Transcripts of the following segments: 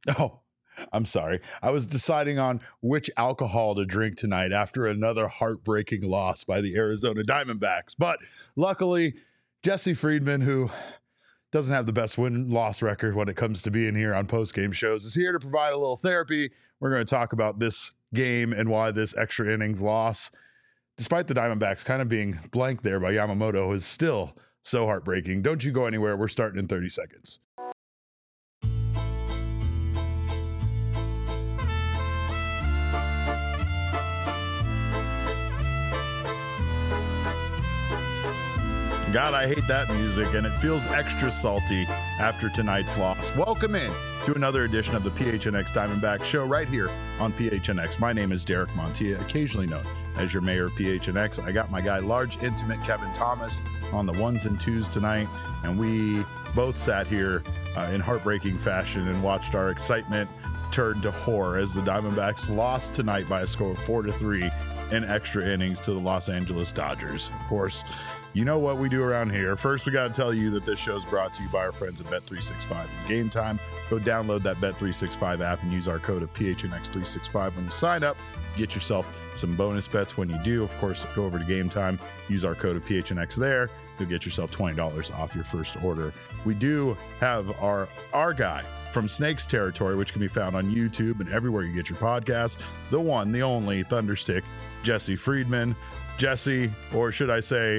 Oh, I'm sorry. I was deciding on which alcohol to drink tonight after another heartbreaking loss by the Arizona Diamondbacks. But luckily, Jesse Friedman, who doesn't have the best win-loss record when it comes to being here on post-game shows, is here to provide a little therapy. We're going to talk about this game and why this extra innings loss, despite the Diamondbacks kind of being blank there by Yamamoto, is still so heartbreaking. Don't you go anywhere. We're starting in 30 seconds. God, I hate that music, and it feels extra salty after tonight's loss. Welcome in to another edition of the PHNX Diamondback Show right here on PHNX. My name is Derek Montilla, occasionally known as your mayor of PHNX. I got my guy, large, intimate Kevin Thomas, on the ones and twos tonight, and we both sat here in heartbreaking fashion and watched our excitement turn to horror as the Diamondbacks lost tonight by a score of 4-3 in extra innings to the Los Angeles Dodgers. Of course, you know what we do around here. First, we got to tell you that this show is brought to you by our friends at Bet365 and Game Time. Go download that Bet365 app and use our code of PHNX365 when you sign up. Get yourself some bonus bets when you do. Of course, go over to Game Time, use our code of PHNX there. You'll get yourself $20 off your first order. We do have our guy from Snakes Territory, which can be found on YouTube and everywhere you get your podcasts. The one, the only Thunderstick, Jesse Friedman. Jesse, or should I say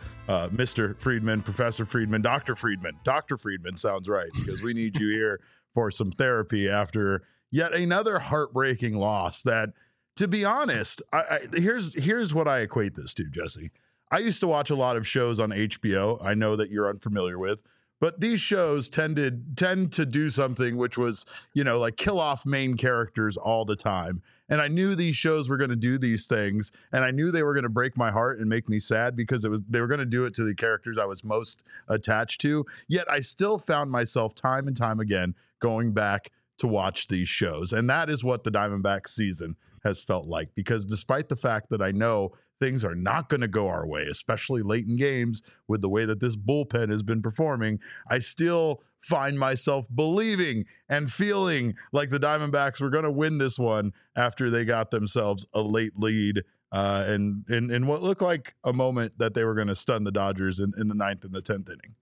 Mr. Friedman, Professor Friedman, Dr. Friedman. Dr. Friedman sounds right, because we need you here for some therapy after yet another heartbreaking loss that, to be honest, here's what I equate this to, Jesse. I used to watch a lot of shows on HBO. I know that you're unfamiliar with, but these shows tend to do something which was, like kill off main characters all the time. And I knew these shows were going to do these things, and I knew they were going to break my heart and make me sad because they were going to do it to the characters I was most attached to. Yet I still found myself time and time again going back to watch these shows. And that is what the Diamondbacks season has felt like, because despite the fact that I know things are not going to go our way, especially late in games with the way that this bullpen has been performing, I still find myself believing and feeling like the Diamondbacks were going to win this one after they got themselves a late lead and in what looked like a moment that they were going to stun the Dodgers in the 9th and the 10th inning.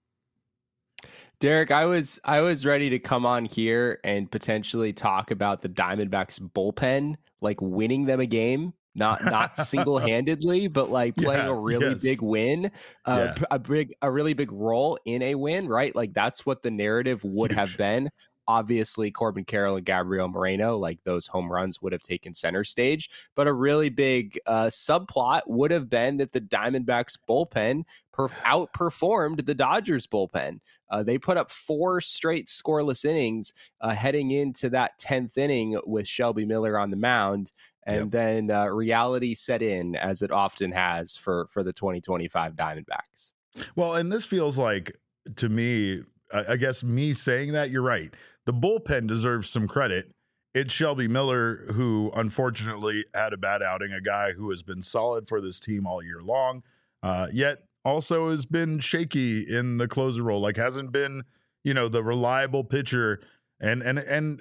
Derek, I was ready to come on here and potentially talk about the Diamondbacks bullpen, like winning them a game. Not single-handedly, but like playing a really big win, a really big role in a win, right? Like that's what the narrative would have been. Obviously, Corbin Carroll and Gabriel Moreno, like those home runs would have taken center stage. But a really big subplot would have been that the Diamondbacks bullpen outperformed the Dodgers bullpen. They put up 4 straight scoreless innings heading into that 10th inning with Shelby Miller on the mound. And then reality set in, as it often has for the 2025 Diamondbacks. Well, and this feels like, to me, I guess me saying that, you're right. The bullpen deserves some credit. It's Shelby Miller, who unfortunately had a bad outing, a guy who has been solid for this team all year long, yet also has been shaky in the closer role, like hasn't been, the reliable pitcher. Again,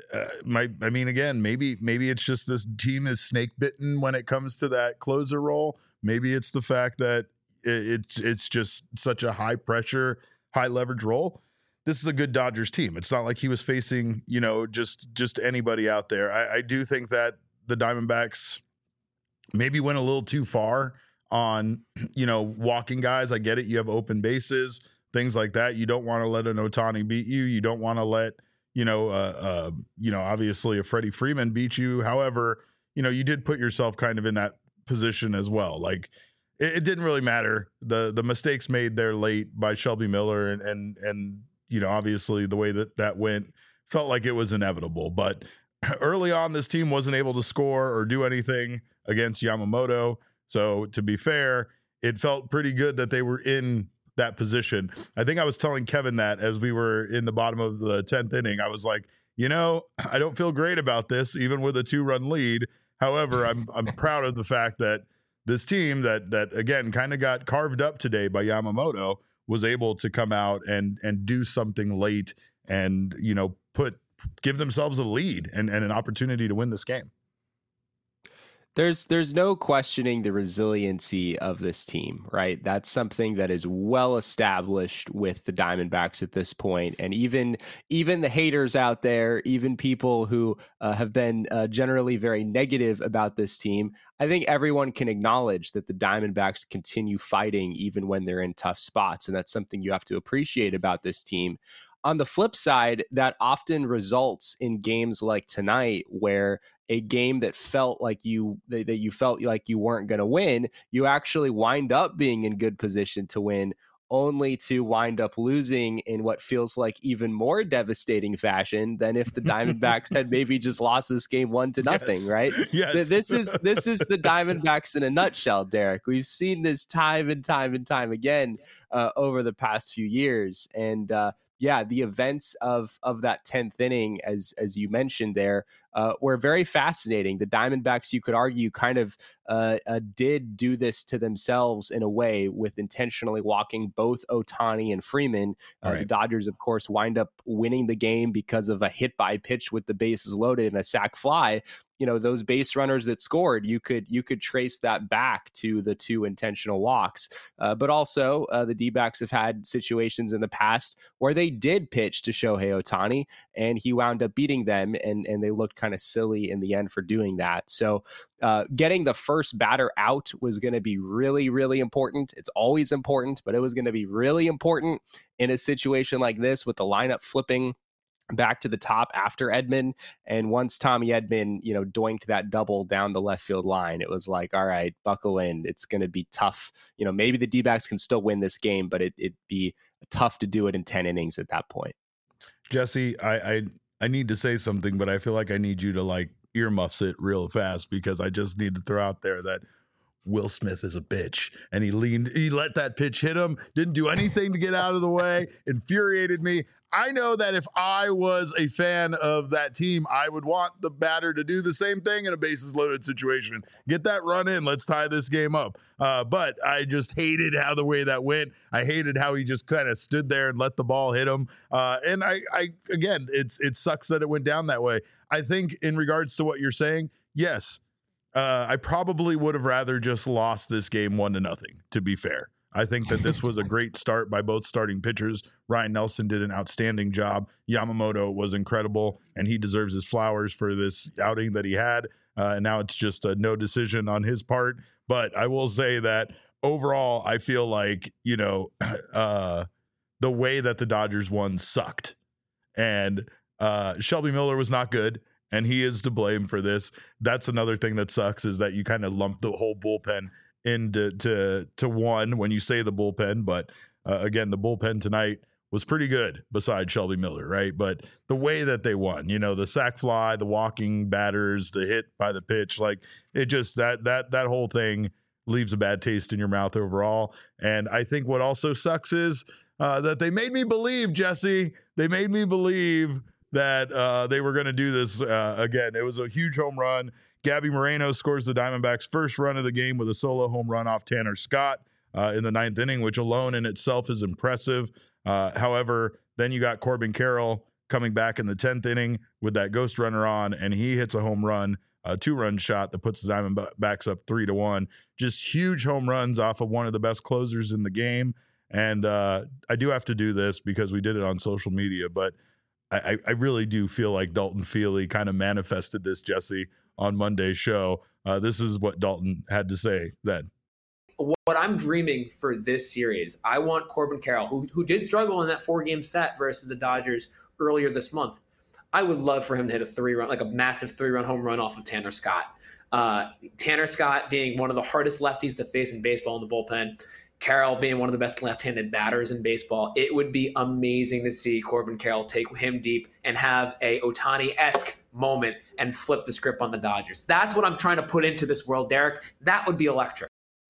maybe it's just this team is snake bitten when it comes to that closer role. Maybe it's the fact that it's just such a high pressure, high leverage role. This is a good Dodgers team. It's not like he was facing, just anybody out there. I do think that the Diamondbacks maybe went a little too far on, walking guys. I get it. You have open bases, things like that. You don't want to let an Ohtani beat you. You don't want to let, obviously a Freddie Freeman beat you. However, you did put yourself kind of in that position as well. Like it didn't really matter. The mistakes made there late by Shelby Miller and obviously the way that went felt like it was inevitable. But early on, this team wasn't able to score or do anything against Yamamoto. So to be fair, it felt pretty good that they were in that position. I think I was telling Kevin that as we were in the bottom of the 10th inning, I was like, I don't feel great about this, even with a 2-run lead. However, I'm proud of the fact that this team that again kind of got carved up today by Yamamoto was able to come out and do something late and put give themselves a lead and an opportunity to win this game. There's no questioning the resiliency of this team, right? That's something that is well established with the Diamondbacks at this point. And even the haters out there, even people who have been generally very negative about this team, I think everyone can acknowledge that the Diamondbacks continue fighting even when they're in tough spots. And that's something you have to appreciate about this team. On the flip side, that often results in games like tonight where a game that felt like you felt like you weren't going to win, you actually wind up being in good position to win, only to wind up losing in what feels like even more devastating fashion than if the Diamondbacks had maybe just lost this game 1-0, yes. Right? Yes. This is the Diamondbacks in a nutshell, Derek. We've seen this time and time and time again over the past few years. And yeah, the events of that 10th inning, as you mentioned there, were very fascinating. The Diamondbacks, you could argue, kind of did do this to themselves in a way with intentionally walking both Ohtani and Freeman. Right. The Dodgers, of course, wind up winning the game because of a hit by pitch with the bases loaded and a sac fly. You know, those base runners that scored, you could trace that back to the 2 intentional walks. But also, the D-backs have had situations in the past where they did pitch to Shohei Ohtani, and he wound up beating them, and they looked kind of silly in the end for doing that. So getting the first batter out was going to be really, really important. It's always important, but it was going to be really important in a situation like this with the lineup flipping back to the top after Edman. And once Tommy Edman, doinked that double down the left field line, it was like, all right, buckle in. It's going to be tough. Maybe the D-backs can still win this game, but it'd be tough to do it in 10 innings at that point. Jesse, I need to say something, but I feel like I need you to earmuffs it real fast, because I just need to throw out there that Will Smith is a bitch, and he let that pitch hit him, didn't do anything to get out of the way, infuriated me. I know that if I was a fan of that team, I would want the batter to do the same thing in a bases loaded situation. Get that run in. Let's tie this game up. But I just hated how the way that went. I hated how he just kind of stood there and let the ball hit him. And I again, it sucks that it went down that way. I think in regards to what you're saying, yes, I probably would have rather just lost this game 1-0, to be fair. I think that this was a great start by both starting pitchers. Ryan Nelson did an outstanding job. Yamamoto was incredible, and he deserves his flowers for this outing that he had. And now it's just a no decision on his part. But I will say that overall, I feel like, the way that the Dodgers won sucked. And Shelby Miller was not good, and he is to blame for this. That's another thing that sucks, is that you kind of lump the whole bullpen into one when you say the bullpen. But again, the bullpen tonight was pretty good besides Shelby Miller, right? But the way that they won, the sac fly, the walking batters, the hit by the pitch, it just that whole thing leaves a bad taste in your mouth overall. And I think what also sucks is that they made me believe, Jesse, they made me believe that they were going to do this again. It was a huge home run. Gabby Moreno scores the Diamondbacks' first run of the game with a solo home run off Tanner Scott in the 9th inning, which alone in itself is impressive. However, then you got Corbin Carroll coming back in the 10th inning with that ghost runner on, and he hits a home run, a 2-run shot that puts the Diamondbacks up 3-1. Just huge home runs off of one of the best closers in the game. And I do have to do this because we did it on social media, but I really do feel like Dalton Feely kind of manifested this, Jesse, on Monday's show. This is what Dalton had to say then. What I'm dreaming for this series, I want Corbin Carroll, who did struggle in that 4-game set versus the Dodgers earlier this month. I would love for him to hit a 3-run, like a massive 3-run home run off of Tanner Scott. Tanner Scott being one of the hardest lefties to face in baseball in the bullpen. Carroll being one of the best left-handed batters in baseball. It would be amazing to see Corbin Carroll take him deep and have a Ohtani-esque moment and flip the script on the Dodgers. That's what I'm trying to put into this world, Derek. That would be electric.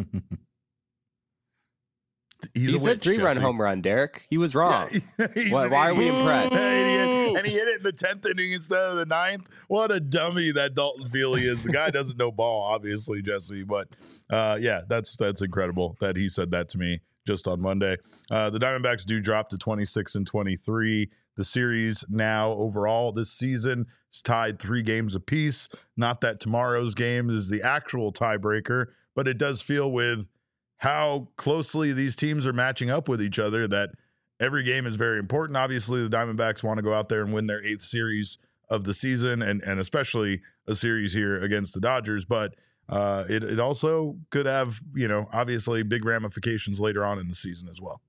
He said 3-run home run, Derek. He was wrong. Yeah, why are we impressed? And he hit it in the 10th inning instead of the 9th. What a dummy that Dalton Feely is. The guy doesn't know ball, obviously, Jesse. But yeah, that's incredible that he said that to me just on Monday. The Diamondbacks do drop to 26-23. The series now overall this season is tied 3 games apiece. Not that tomorrow's game is the actual tiebreaker, but it does feel with how closely these teams are matching up with each other that every game is very important. Obviously, the Diamondbacks want to go out there and win their 8th series of the season, and especially a series here against the Dodgers. But it also could have, obviously big ramifications later on in the season as well.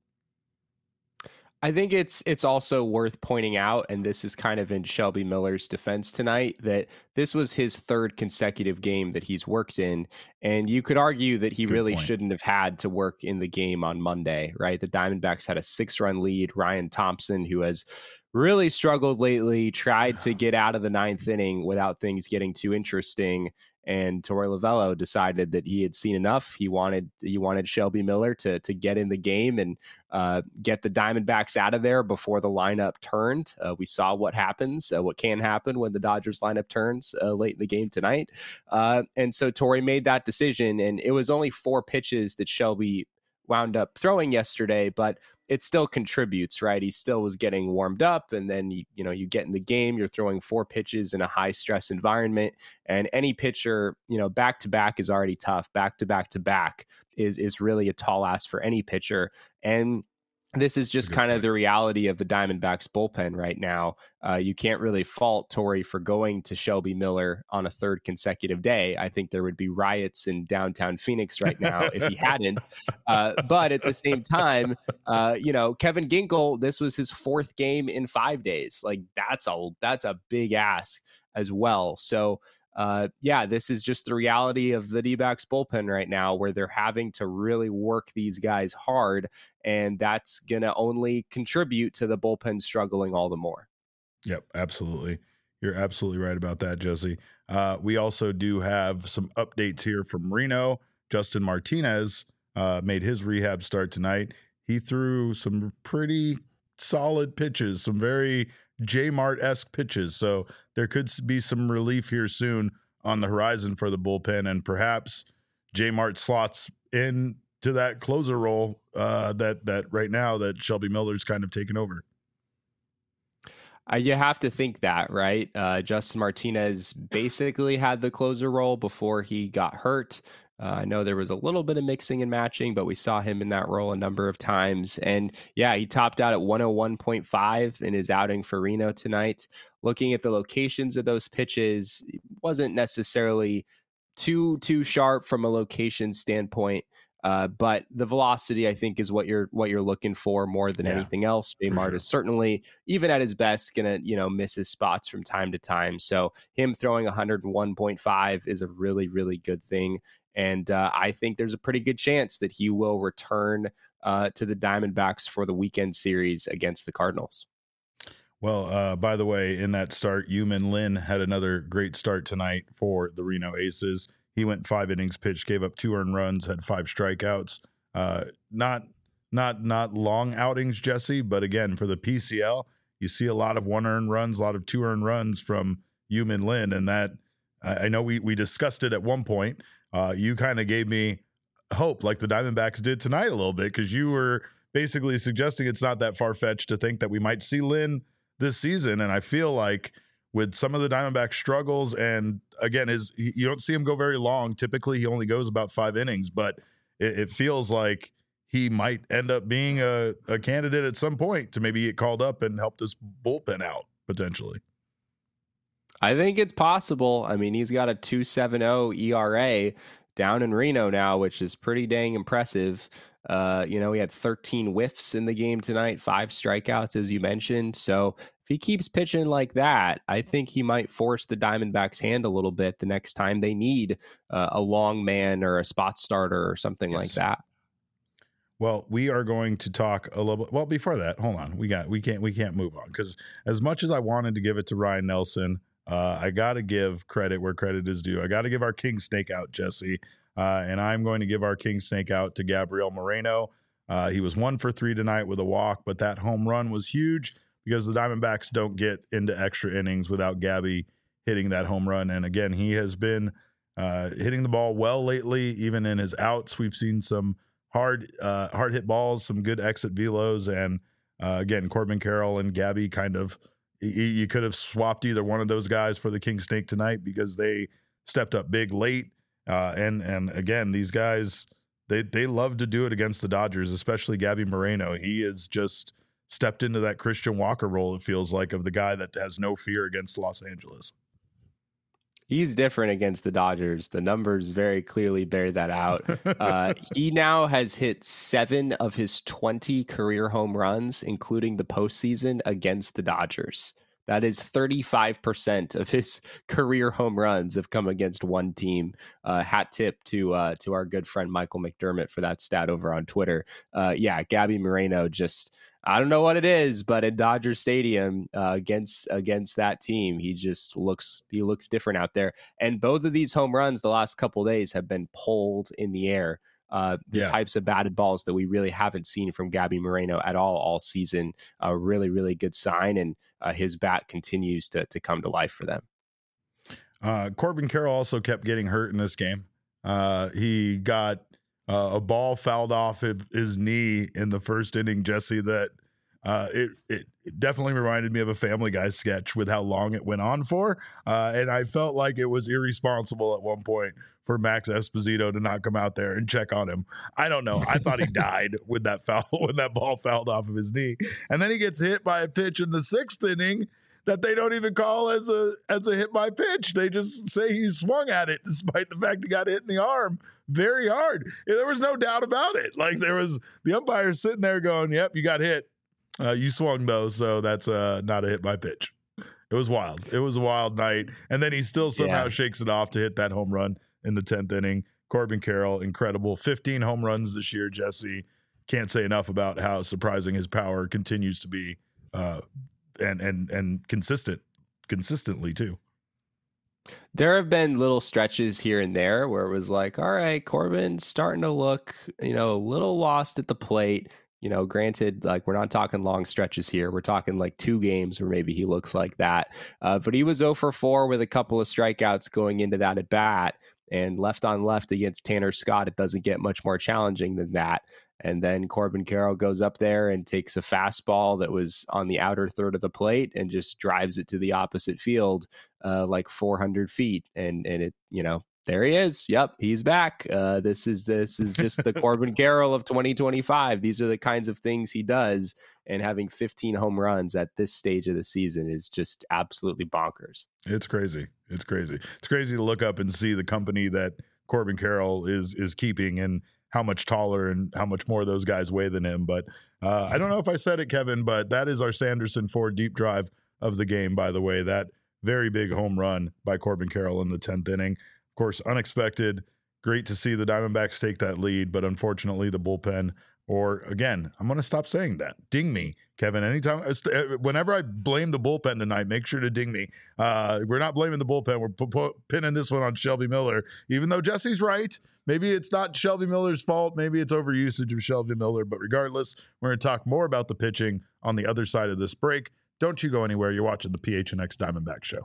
I think it's also worth pointing out, and this is kind of in Shelby Miller's defense tonight, that this was his 3rd consecutive game that he's worked in. And you could argue that he really shouldn't have had to work in the game on Monday, right? The Diamondbacks had a 6-run lead. Ryan Thompson, who has really struggled lately, tried to get out of the 9th inning without things getting too interesting. And Torey Lovullo decided that he had seen enough. He wanted Shelby Miller to get in the game and get the Diamondbacks out of there before the lineup turned. We saw what happens, what can happen when the Dodgers lineup turns late in the game tonight. And so Torey made that decision, and it was only 4 pitches that Shelby wound up throwing yesterday, but it still contributes, right? He still was getting warmed up, and then you get in the game, you're throwing 4 pitches in a high stress environment, and any pitcher, back to back is already tough. Back to back is really a tall ask for any pitcher. And this is just kind of the reality of the Diamondbacks bullpen right now. You can't really fault Torey for going to Shelby Miller on a 3rd consecutive day. I think there would be riots in downtown Phoenix right now if he hadn't. But at the same time, Kevin Ginkel, this was his 4th game in 5 days. Like that's a big ask as well. So this is just the reality of the D-backs bullpen right now, where they're having to really work these guys hard, and that's going to only contribute to the bullpen struggling all the more. Yep, absolutely. You're absolutely right about that, Jesse. We also do have some updates here from Reno. Justin Martinez made his rehab start tonight. He threw some pretty solid pitches, some very J-Mart-esque pitches. So there could be some relief here soon on the horizon for the bullpen, and perhaps J-Mart slots in to that closer role that right now that Shelby Miller's kind of taken over. You have to think that, right? Justin Martinez basically had the closer role before he got hurt. I know there was a little bit of mixing and matching, but we saw him in that role a number of times. And yeah, he topped out at 101.5 in his outing for Reno tonight. Looking at the locations of those pitches, it wasn't necessarily too sharp from a location standpoint. But the velocity, I think, is what you're looking for more than anything else. J-Mart is certainly, even at his best, gonna miss his spots from time to time. So him throwing 101.5 is a really, really good thing. And I think there's a pretty good chance that he will return to the Diamondbacks for the weekend series against the Cardinals. Well, by the way, in that start, Yu-Min Lin had another great start tonight for the Reno Aces. He went 5 innings pitched, gave up 2 earned runs, had 5 strikeouts. Not long outings, Jesse, but again, for the PCL, you see a lot of 1 earned runs, a lot of 2 earned runs from Yu-Min Lin, and that I know we discussed it at one point. You kind of gave me hope, like the Diamondbacks did tonight a little bit, because you were basically suggesting it's not that far-fetched to think that we might see Lin this season, and I feel like with some of the Diamondback struggles, and again, you don't see him go very long. Typically, he only goes about 5 innings, but it feels like he might end up being a candidate at some point to maybe get called up and help this bullpen out potentially. I think it's possible. I mean, he's got a 2.70 ERA down in Reno now, which is pretty dang impressive. He had 13 whiffs in the game tonight, 5 strikeouts, as you mentioned. So if he keeps pitching like that, I think he might force the Diamondbacks' hand a little bit the next time they need a long man or a spot starter or something like that. Well, we are going to talk a little bit. Well, before that, hold on. We can't move on, because as much as I wanted to give it to Ryan Nelson, I got to give credit where credit is due. I got to give our king snake out, Jesse. And I'm going to give our king snake out to Gabriel Moreno. He was 1 for 3 tonight with a walk, but that home run was huge because the Diamondbacks don't get into extra innings without Gabby hitting that home run. And again, he has been hitting the ball well lately. Even in his outs, we've seen some hard hit balls, some good exit velos, and Again, Corbin Carroll and Gabby kind of, you could have swapped either one of those guys for the King Snake tonight because they stepped up big late. And again, these guys, they love to do it against the Dodgers, especially Gabby Moreno. He has just stepped into that Christian Walker role, it feels like, of the guy that has no fear against Los Angeles. He's different against the Dodgers. The numbers very clearly bear that out. He now has hit 7 of his 20 career home runs, including the postseason, against the Dodgers. That is 35% of his career home runs have come against one team. Hat tip to our good friend Michael McDermott for that stat over on Twitter. Gabby Moreno just, I don't know what it is, but in Dodger Stadium against that team, he looks different out there. And both of these home runs the last couple of days have been pulled in the air. Types of batted balls that we really haven't seen from Gabby Moreno at all season. A really, really good sign, and his bat continues to come to life for them. Corbin Carroll also kept getting hurt in this game. He got a ball fouled off his knee in the first inning, Jesse, that it definitely reminded me of a Family Guy sketch with how long it went on for. And I felt like it was irresponsible at one point for Max Esposito to not come out there and check on him. I don't know. I thought he died with that foul, when that ball fouled off of his knee. And then he gets hit by a pitch in the 6th inning that they don't even call as a hit by pitch. They just say he swung at it, despite the fact he got hit in the arm very hard. There was no doubt about it. Like, there was the umpire sitting there going, "Yep, you got hit. You swung though, so that's not a hit by pitch." It was wild. It was a wild night. And then he still somehow shakes it off to hit that home run in the 10th inning. Corbin Carroll, incredible. 15 home runs this year, Jesse. Can't say enough about how surprising his power continues to be, and consistently too. There have been little stretches here and there where it was like, all right, Corbin's starting to look, a little lost at the plate. Granted, like, we're not talking long stretches here. We're talking like 2 games where maybe he looks like that. But he was 0 for 4 with a couple of strikeouts going into that at bat, and left on left against Tanner Scott. It doesn't get much more challenging than that. And then Corbin Carroll goes up there and takes a fastball that was on the outer third of the plate and just drives it to the opposite field, like 400 feet. And it, there he is. Yep, he's back. This is just the Corbin Carroll of 2025. These are the kinds of things he does. And having 15 home runs at this stage of the season is just absolutely bonkers. It's crazy. It's crazy. It's crazy to look up and see the company that Corbin Carroll is keeping, and how much taller and how much more those guys weigh than him. But I don't know if I said it, Kevin, but that is our Sanderson Ford deep drive of the game, by the way. That very big home run by Corbin Carroll in the 10th inning. Of course, unexpected. Great to see the Diamondbacks take that lead, but unfortunately the bullpen, or again, I'm going to stop saying that. Ding me, Kevin. Anytime, whenever I blame the bullpen tonight, make sure to ding me. We're not blaming the bullpen. We're pinning this one on Shelby Miller, even though Jesse's right. Maybe it's not Shelby Miller's fault. Maybe it's overusage of Shelby Miller. But regardless, we're going to talk more about the pitching on the other side of this break. Don't you go anywhere. You're watching the PHNX Diamondback Show.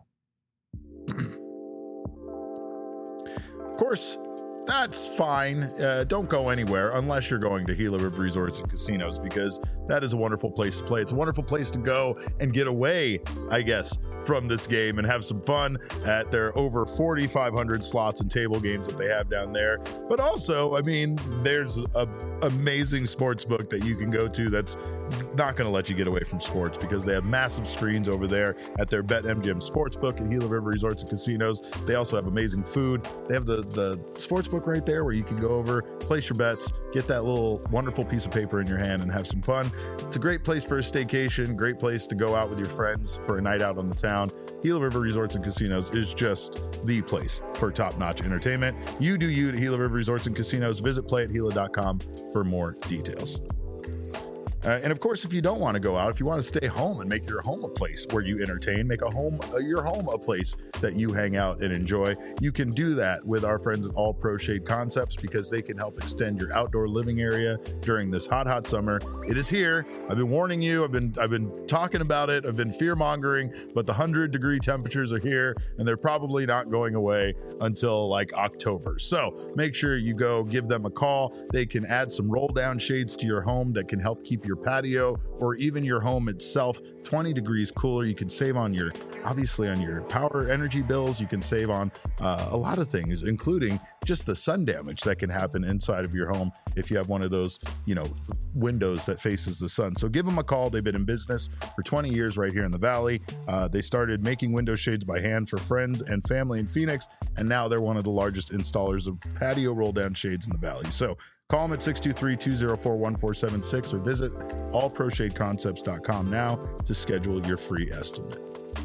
Of course, that's fine. Don't go anywhere unless you're going to Gila River Resorts and Casinos, because that is a wonderful place to play. It's a wonderful place to go and get away, I guess, from this game and have some fun at their over 4,500 slots and table games that they have down there. But also, I mean, there's an amazing sports book that you can go to that's not going to let you get away from sports, because they have massive screens over there at their BetMGM Sportsbook at Gila River Resorts and Casinos. They also have amazing food. They have the sports book right there where you can go over, place your bets, get that little wonderful piece of paper in your hand and have some fun. It's a great place for a staycation, great place to go out with your friends for a night out on the town. Gila River Resorts and Casinos is just the place for top-notch entertainment. You do you at Gila River Resorts and Casinos. Visit playatgila.com for more details. And of course, if you don't want to go out, if you want to stay home and make your home a place where you entertain, make your home a place that you hang out and enjoy, you can do that with our friends at All Pro Shade Concepts, because they can help extend your outdoor living area during this hot summer. It is here. I've been warning you. I've been talking about it. I've been fear mongering, but the 100-degree temperatures are here, and they're probably not going away until like October. So make sure you go give them a call. They can add some roll down shades to your home that can help keep your your patio, or even your home itself. 20 degrees cooler. You can save on your power energy bills. You can save on a lot of things, including just the sun damage that can happen inside of your home if you have one of those, windows that faces the sun. So give them a call. They've been in business for 20 years right here in the Valley. They started making window shades by hand for friends and family in Phoenix, and now they're one of the largest installers of patio roll-down shades in the Valley. So call them at 623-204-1476 or visit allproshadeconcepts.com now to schedule your free estimate.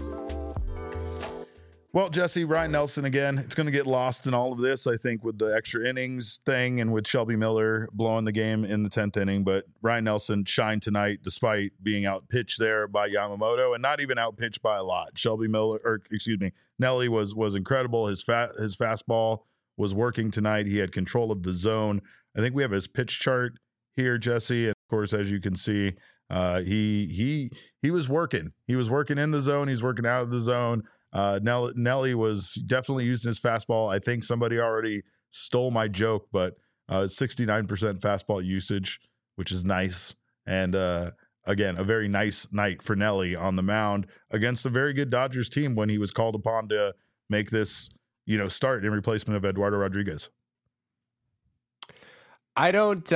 Well, Jesse, Ryan Nelson again, it's going to get lost in all of this, I think, with the extra innings thing and with Shelby Miller blowing the game in the 10th inning. But Ryan Nelson shined tonight despite being outpitched there by Yamamoto, and not even outpitched by a lot. Nelly was incredible. His fastball was working tonight. He had control of the zone. I think we have his pitch chart here, Jesse. And of course, as you can see, he was working. He was working in the zone. He's working out of the zone. Nelly was definitely using his fastball. I think somebody already stole my joke, but 69% fastball usage, which is nice. And again, a very nice night for Nelly on the mound against a very good Dodgers team when he was called upon to make this, start in replacement of Eduardo Rodriguez. I don't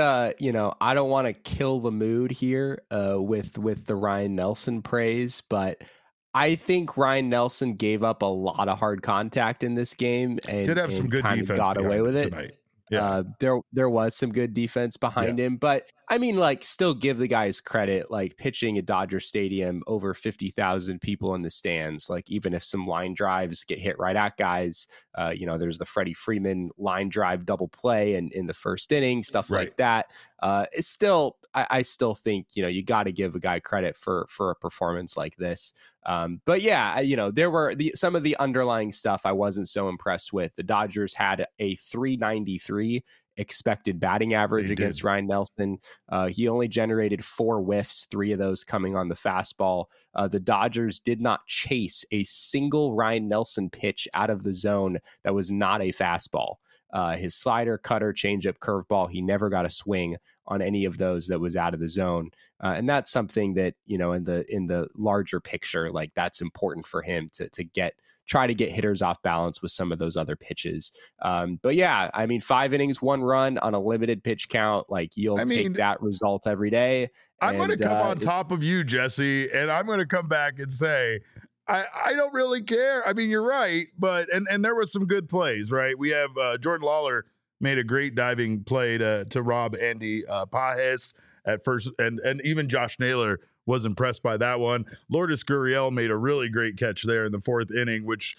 want to kill the mood here with the Ryan Nelson praise, but I think Ryan Nelson gave up a lot of hard contact in this game and did have some good defense, got away with it tonight. Yeah. There was some good defense behind him, but I mean, still give the guys credit, pitching at Dodger Stadium, over 50,000 people in the stands. Even if some line drives get hit right at guys, there's the Freddie Freeman line drive double play in the first inning, stuff like that. It's still, I still think, you got to give a guy credit for a performance like this. But yeah, there were some of the underlying stuff I wasn't so impressed with. The Dodgers had a 393 expected batting average against Ryan Nelson. He only generated 4 whiffs, 3 of those coming on the fastball. The Dodgers did not chase a single Ryan Nelson pitch out of the zone that was not a fastball. His slider, cutter, changeup, curveball, he never got a swing on any of those that was out of the zone. And that's something that, in the larger picture, that's important for him to try to get hitters off balance with some of those other pitches. But yeah, I mean, 5 innings, 1 run on a limited pitch count, you'll take that result every day. I'm going to come on top of you, Jesse, and I'm going to come back and say, I don't really care. I mean, you're right, but and there was some good plays, right? We have Jordan Lawler made a great diving play to rob Andy Pages at first, and even Josh Naylor was impressed by that one. Lourdes Gurriel made a really great catch there in the 4th inning, which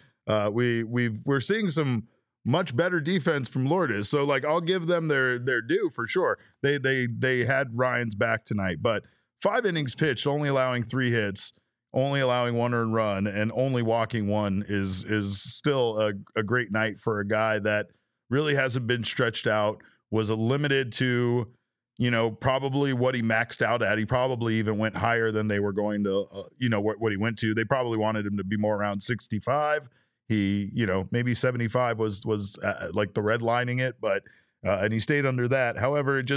we're seeing some much better defense from Lourdes. So I'll give them their due for sure. They had Ryan's back tonight, but 5 innings pitched, only allowing 3 hits, only allowing 1 earned run, and only walking 1 is still a great night for a guy that really hasn't been stretched out, was limited to, probably what he maxed out at. He probably even went higher than they were going to, what he went to. They probably wanted him to be more around 65. He, maybe 75 was the redlining it, but, and he stayed under that. However, it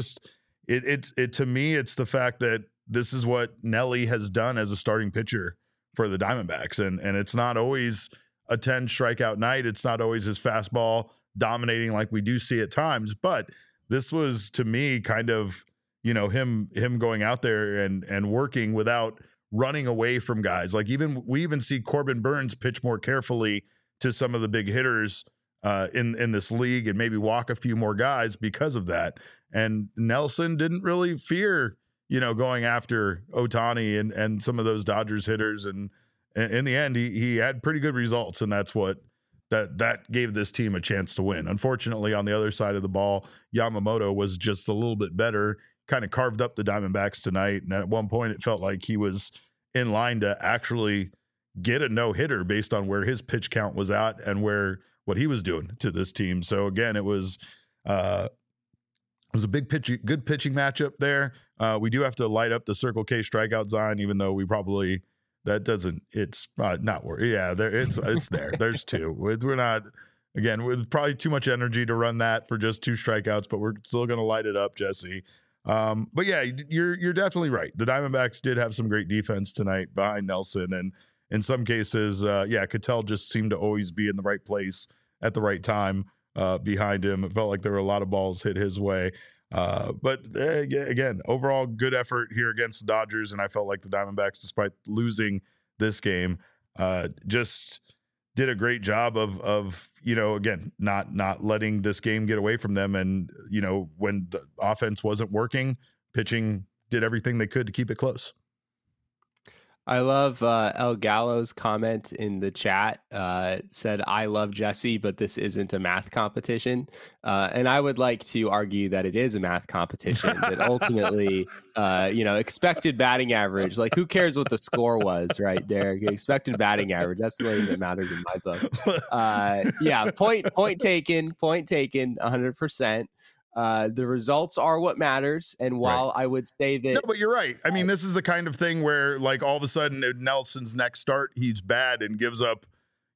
to me, it's the fact that this is what Nelly has done as a starting pitcher for the Diamondbacks. And it's not always a 10 strikeout night. It's not always his fastball dominating like we do see at times, but this was, to me, kind of, him going out there and working without running away from guys. We even see Corbin Burns pitch more carefully to some of the big hitters in this league and maybe walk a few more guys because of that. And Nelson didn't really fear, going after Ohtani and some of those Dodgers hitters. And in the end, he had pretty good results. And that's what that gave this team a chance to win. Unfortunately, on the other side of the ball, Yamamoto was just a little bit better, kind of carved up the Diamondbacks tonight. And at one point, it felt like he was in line to actually get a no-hitter based on where his pitch count was at and what he was doing to this team. So again, it was a good pitching matchup there. We do have to light up the Circle K strikeout sign, even though we probably it's not worth. Yeah, it's there. There's 2. We're not, again, with probably too much energy to run that for just 2 strikeouts, but we're still going to light it up, Jesse. But yeah, you're definitely right. The Diamondbacks did have some great defense tonight behind Nelson, and in some cases, Ketel just seemed to always be in the right place at the right time behind him. It felt like there were a lot of balls hit his way. But again, overall good effort here against the Dodgers, and I felt like the Diamondbacks, despite losing this game, just did a great job of again, not letting this game get away from them. And when the offense wasn't working, pitching did everything they could to keep it close. I love El Gallo's comment in the chat. Said, "I love Jesse, but this isn't a math competition." And I would like to argue that it is a math competition. That ultimately, expected batting average. Like, who cares what the score was, right, Derek? Expected batting average. That's the only thing that matters in my book. Point taken. 100%. The results are what matters. And while I would say that... No, but you're right. I mean, this is the kind of thing where, like, all of a sudden Nelson's next start, he's bad and gives up,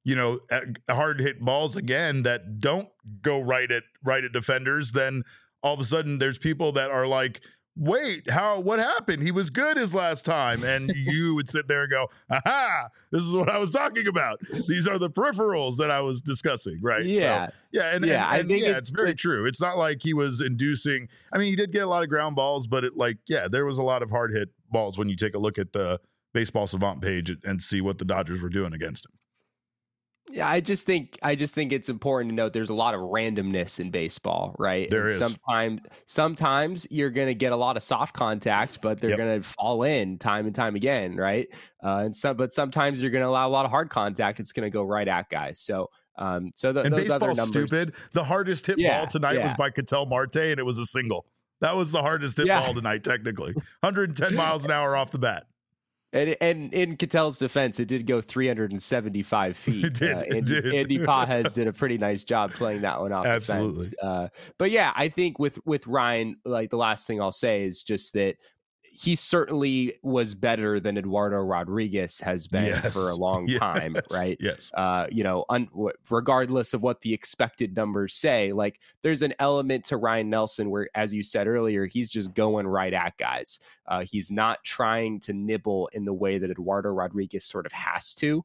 hard hit balls again that don't go right at defenders. Then all of a sudden there's people that are like, wait, what happened? He was good his last time. And you would sit there and go, aha, this is what I was talking about. These are the peripherals that I was discussing, right? Yeah. So, it's very true. It's not like he was inducing. I mean, he did get a lot of ground balls, but there was a lot of hard hit balls when you take a look at the Baseball Savant page and see what the Dodgers were doing against him. Yeah, I just think it's important to note there's a lot of randomness in baseball, right? There is. Sometimes you're going to get a lot of soft contact, but they're going to fall in time and time again, right? But sometimes you're going to allow a lot of hard contact. It's going to go right at guys. So those baseball's other numbers, stupid. The hardest hit ball tonight was by Ketel Marte, and it was a single. That was the hardest hit ball tonight, technically. 110 miles an hour off the bat. And in Ketel's defense, it did go 375 feet. It did. Andy Pajes did a pretty nice job playing that one off. Absolutely. The fence. But yeah, I think with Ryan, like, the last thing I'll say is just that he certainly was better than Eduardo Rodriguez has been for a long time, right? Yes. Regardless of what the expected numbers say, like, there's an element to Ryan Nelson where, as you said earlier, he's just going right at guys. He's not trying to nibble in the way that Eduardo Rodriguez sort of has to.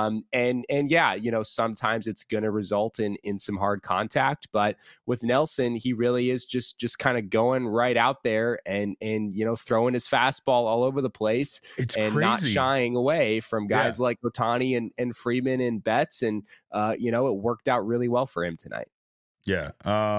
Sometimes it's going to result in some hard contact, but with Nelson, he really is just kind of going right out there and throwing his fastball all over the place. It's and crazy. Not shying away from guys like Ohtani and Freeman and Betts. And, it worked out really well for him tonight. Yeah.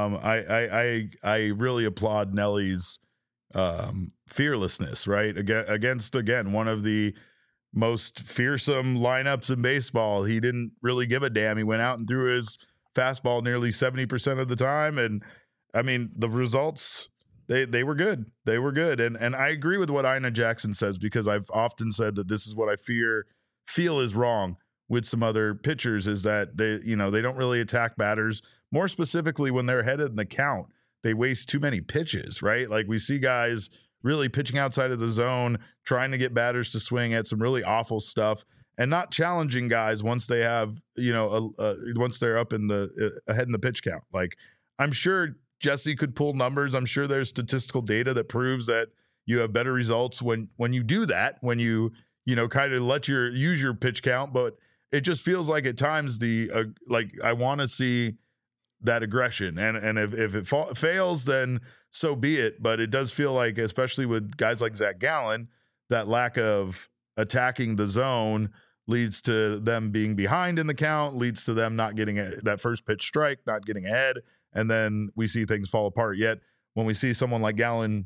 I really applaud Nelly's fearlessness, right? Against one of the most fearsome lineups in baseball. He didn't really give a damn. He went out and threw his fastball nearly 70% of the time. And I mean, the results, they were good. They were good. And I agree with what Ina Jackson says, because I've often said that this is what I feel is wrong with some other pitchers, is that they don't really attack batters. More specifically, when they're ahead in the count, they waste too many pitches, right? Like, we see guys really pitching outside of the zone, trying to get batters to swing at some really awful stuff, and not challenging guys once they have, once they're up in the ahead in the pitch count. Like, I'm sure Jesse could pull numbers. I'm sure there's statistical data that proves that you have better results when you do that, when you kind of use your pitch count. But it just feels like at times I want to see that aggression, and if it fails, then so be it. But it does feel like, especially with guys like Zach Gallen, that lack of attacking the zone leads to them being behind in the count, leads to them not getting that first pitch strike, not getting ahead, and then we see things fall apart. Yet when we see someone like Gallen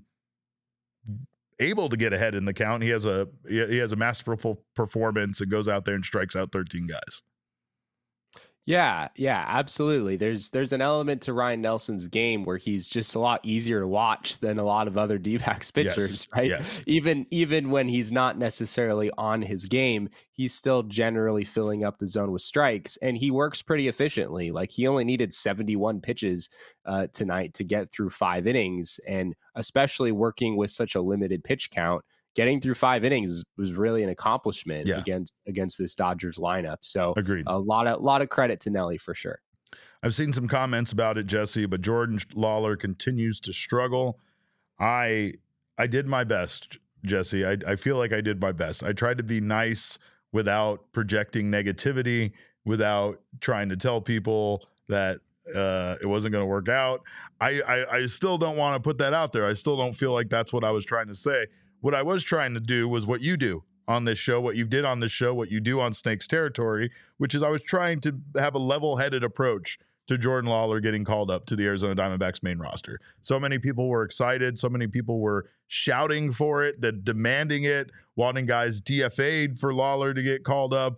able to get ahead in the count, he has a masterful performance and goes out there and strikes out 13 guys. Yeah, absolutely. There's an element to Ryan Nelson's game where he's just a lot easier to watch than a lot of other D-backs pitchers, right? Yes. Even when he's not necessarily on his game, he's still generally filling up the zone with strikes, and he works pretty efficiently. Like, he only needed 71 pitches tonight to get through 5 innings, and especially working with such a limited pitch count, getting through 5 innings was really an accomplishment against this Dodgers lineup. So agreed. A lot of credit to Nelly for sure. I've seen some comments about it, Jesse, but Jordan Lawler continues to struggle. I did my best, Jesse. I feel like I did my best. I tried to be nice without projecting negativity, without trying to tell people that it wasn't going to work out. I still don't want to put that out there. I still don't feel like that's what I was trying to say. What I was trying to do was what you do on this show, what you did on this show, what you do on Snakes Territory, which is I was trying to have a level-headed approach to Jordan Lawler getting called up to the Arizona Diamondbacks main roster. So many people were excited. So many people were shouting for it, demanding it, wanting guys DFA'd for Lawler to get called up.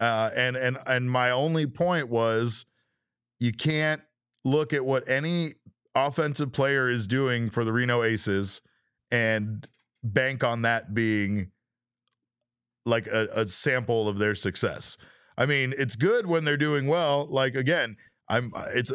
And my only point was, you can't look at what any offensive player is doing for the Reno Aces and bank on that being like a sample of their success. I mean, it's good when they're doing well. Like, again, it's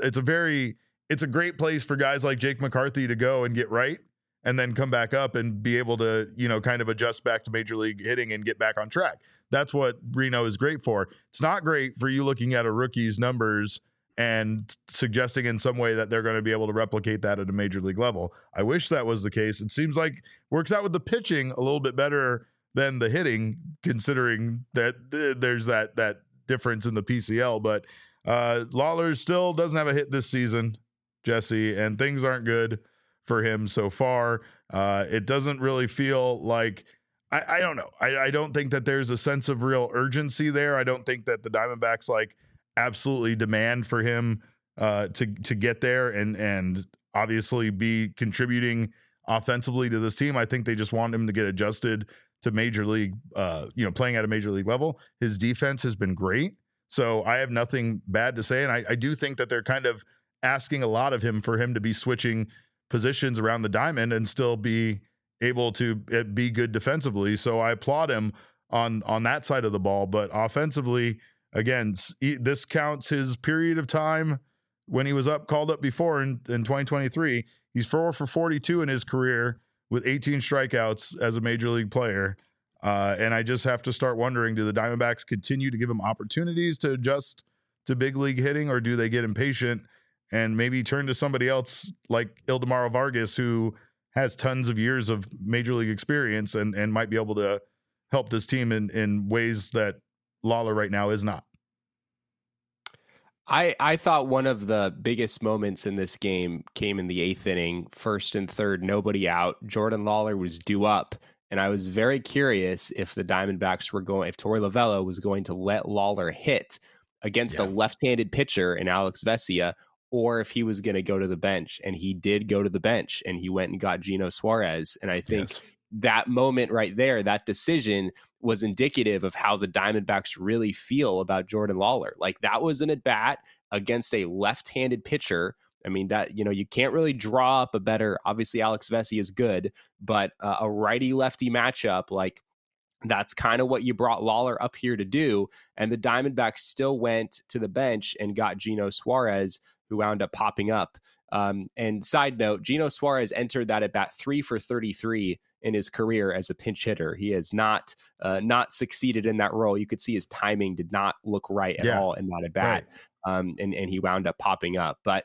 a great place for guys like Jake McCarthy to go and get right and then come back up and be able to, kind of adjust back to major league hitting and get back on track. That's what Reno is great for. It's not great for you looking at a rookie's numbers and suggesting in some way that they're going to be able to replicate that at a major league level. I wish that was the case. It seems like works out with the pitching a little bit better than the hitting, considering that there's that difference in the PCL. But Lawler still doesn't have a hit this season, Jesse, and things aren't good for him so far. It doesn't really feel like, I don't know. I don't think that there's a sense of real urgency there. I don't think that the Diamondbacks absolutely demand for him to get there and obviously be contributing offensively to this team. I think they just want him to get adjusted to major league, playing at a major league level. His defense has been great, so I have nothing bad to say. And I do think that they're kind of asking a lot of him for him to be switching positions around the diamond and still be able to be good defensively. So I applaud him on that side of the ball, but offensively, again, this counts his period of time when he was called up before in 2023. He's 4 for 42 in his career with 18 strikeouts as a major league player. And I just have to start wondering, do the Diamondbacks continue to give him opportunities to adjust to big league hitting, or do they get impatient and maybe turn to somebody else like Ildemaro Vargas, who has tons of years of major league experience and might be able to help this team in ways that Lawler right now is not? I thought one of the biggest moments in this game came in the 8th inning, 1st and 3rd, nobody out. Jordan Lawler was due up, and I was very curious if the Diamondbacks if Torey Lovullo was going to let Lawler hit against a left-handed pitcher in Alex Vesia, or if he was going to go to the bench. And he did go to the bench, and he went and got Gino Suarez. And I think that moment right there, that decision was indicative of how the Diamondbacks really feel about Jordan Lawler. Like, that was an at-bat against a left-handed pitcher. I mean, that, you can't really draw up a better, obviously Alex Vesia is good, but a righty-lefty matchup, like, that's kind of what you brought Lawler up here to do. And the Diamondbacks still went to the bench and got Gino Suarez, who wound up popping up. And side note, Gino Suarez entered that at bat 3 for 33 in his career as a pinch hitter. He has not succeeded in that role. You could see his timing did not look right at all in that at bat. Right. And he wound up popping up. But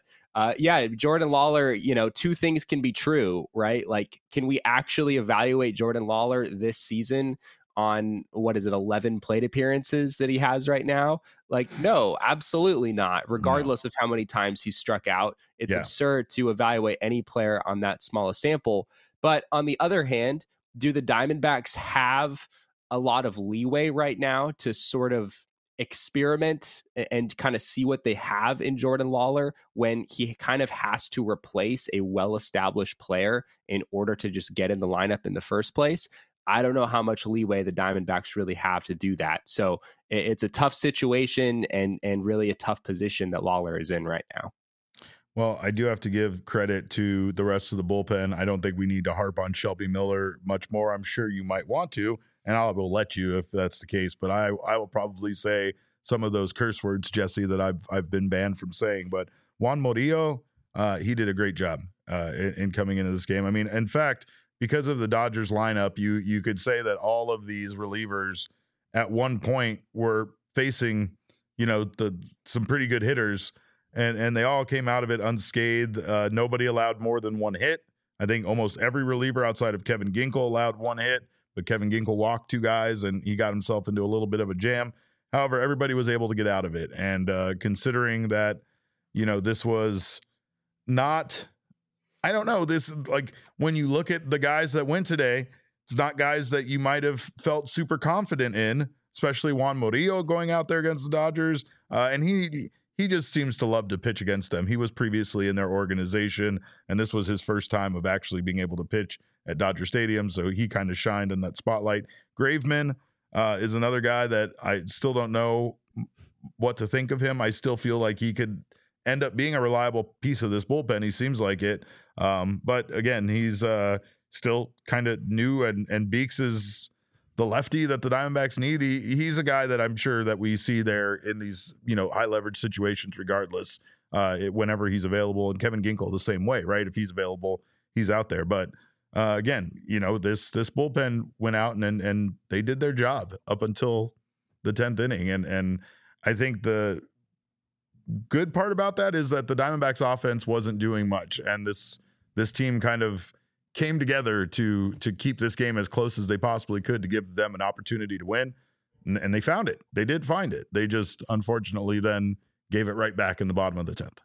Jordan Lawler, two things can be true, right? Like, can we actually evaluate Jordan Lawler this season on 11 plate appearances that he has right now? Like, no, absolutely not. Regardless of how many times he's struck out, it's absurd to evaluate any player on that small a sample. But on the other hand, do the Diamondbacks have a lot of leeway right now to sort of experiment and kind of see what they have in Jordan Lawler when he kind of has to replace a well-established player in order to just get in the lineup in the first place? I don't know how much leeway the Diamondbacks really have to do that. So it's a tough situation and really a tough position that Lawler is in right now. Well, I do have to give credit to the rest of the bullpen. I don't think we need to harp on Shelby Miller much more. I'm sure you might want to, and I will let you if that's the case. But I will probably say some of those curse words, Jesse, that I've been banned from saying. But Juan Murillo, he did a great job in coming into this game. I mean, in fact, because of the Dodgers lineup, you could say that all of these relievers at one point were facing, some pretty good hitters. And they all came out of it unscathed. Nobody allowed more than one hit I think almost every reliever outside of Kevin Ginkel allowed one hit, but Kevin Ginkel walked 2 guys and he got himself into a little bit of a jam. However, everybody was able to get out of it. And considering that, this was not, I don't know, this, like, when you look at the guys that went today, it's not guys that you might have felt super confident in, especially Juan Murillo going out there against the Dodgers. And he just seems to love to pitch against them. He was previously in their organization, and this was his first time of actually being able to pitch at Dodger Stadium, so he kind of shined in that spotlight. Graveman is another guy that I still don't know what to think of him. I still feel like he could end up being a reliable piece of this bullpen. He seems like it. But again, he's still kind of new, and Beeks is the lefty that the Diamondbacks need. He's a guy that I'm sure that we see there in these, high leverage situations regardless, whenever he's available. And Kevin Ginkel the same way, right? If he's available, he's out there. But again, this bullpen went out and they did their job up until the 10th inning. And I think the good part about that is that the Diamondbacks offense wasn't doing much. And this team kind of came together to keep this game as close as they possibly could to give them an opportunity to win. And they found it. They did find it. They just unfortunately then gave it right back in the bottom of the 10th.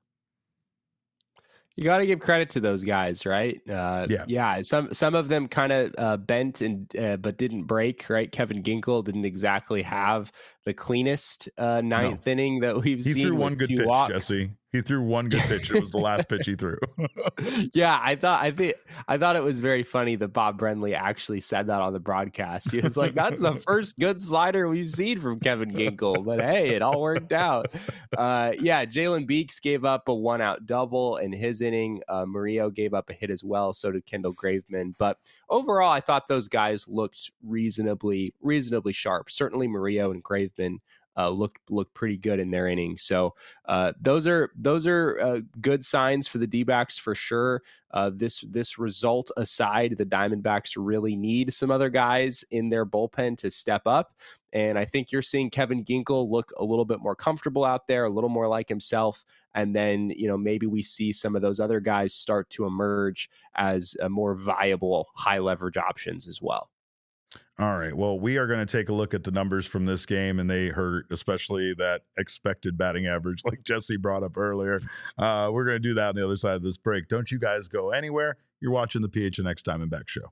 You got to give credit to those guys, right? Yeah. Some of them kind of bent and but didn't break, right? Kevin Ginkel didn't exactly have the cleanest ninth inning that we've seen. He threw one good pitch, walks. Jesse. He threw one good pitch. It was the last pitch he threw. Yeah, I thought it was very funny that Bob Brenly actually said that on the broadcast. He was like, "That's the first good slider we've seen from Kevin Ginkel." But hey, it all worked out. Jalen Beeks gave up a 1-out double in his inning. Murillo gave up a hit as well. So did Kendall Graveman. But overall, I thought those guys looked reasonably sharp. Certainly, Murillo and Graveman looked pretty good in their innings. So those are good signs for the D-backs for sure. This result aside, the Diamondbacks really need some other guys in their bullpen to step up. And I think you're seeing Kevin Ginkel look a little bit more comfortable out there, a little more like himself. And then, maybe we see some of those other guys start to emerge as more viable high leverage options as well. All right. Well, we are going to take a look at the numbers from this game, and they hurt, especially that expected batting average, like Jesse brought up earlier. We're going to do that on the other side of this break. Don't you guys go anywhere. You're watching the PHNX Diamondback Show.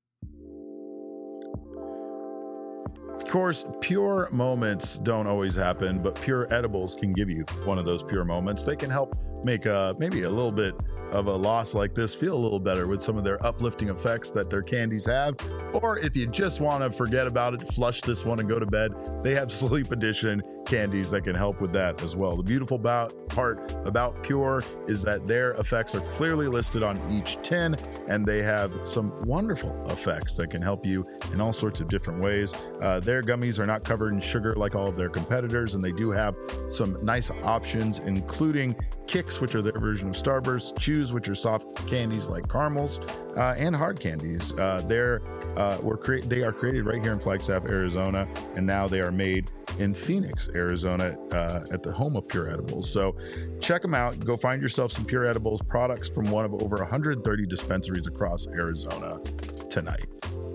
Of course, pure moments don't always happen, but Pure Edibles can give you one of those pure moments. They can help make maybe a little bit of a loss like this feel a little better with some of their uplifting effects that their candies have. Or if you just want to forget about it, flush this one and go to bed, they have Sleep Edition candies that can help with that as well. The beautiful part about Pure is that their effects are clearly listed on each tin, and they have some wonderful effects that can help you in all sorts of different ways. Their gummies are not covered in sugar like all of their competitors, and they do have some nice options, including Kicks, which are their version of Starburst, Chews, which are soft candies like caramels, and hard candies. They are created right here in Flagstaff, Arizona, and now they are made in Phoenix, Arizona, at the home of Pure Edibles. So check them out. Go find yourself some Pure Edibles products from one of over 130 dispensaries across Arizona tonight.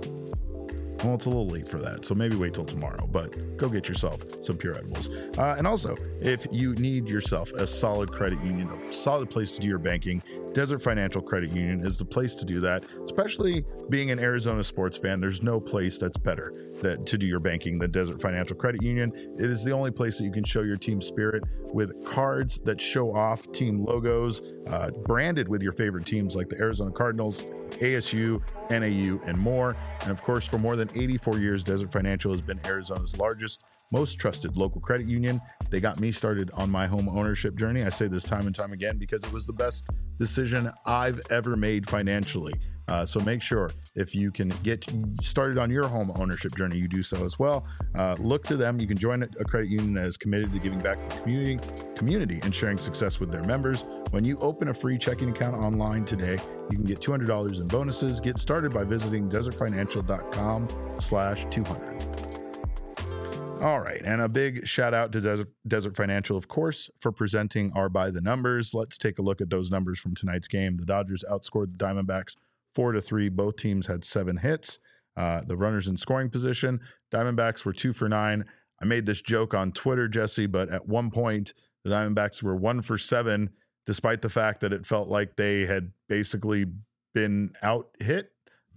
Well, it's a little late for that, so maybe wait till tomorrow, but go get yourself some Pure Edibles. And also, if you need yourself a solid credit union, a solid place to do your banking, Desert Financial Credit Union is the place to do that. Especially being an Arizona sports fan, there's no place that's better to do your banking than Desert Financial Credit Union. It is the only place that you can show your team spirit with cards that show off team logos, branded with your favorite teams like the Arizona Cardinals, ASU, NAU, and more. And of course, for more than 84 years, Desert Financial has been Arizona's largest, most trusted local credit union. They got me started on my home ownership journey. I say this time and time again because it was the best decision I've ever made financially. So make sure if you can get started on your home ownership journey, you do so as well. Look to them. You can join a credit union that is committed to giving back to the community and sharing success with their members. When you open a free checking account online today, you can get $200 in bonuses. Get started by visiting desertfinancial.com/200. All right. And a big shout out to Desert Financial, of course, for presenting our By the Numbers. Let's take a look at those numbers from tonight's game. The Dodgers outscored the Diamondbacks 4-3. Both teams had 7 hits. The runners in scoring position, Diamondbacks were 2 for 9. I made this joke on Twitter, Jesse, but at one point the Diamondbacks were 1 for 7, despite the fact that it felt like they had basically been out hit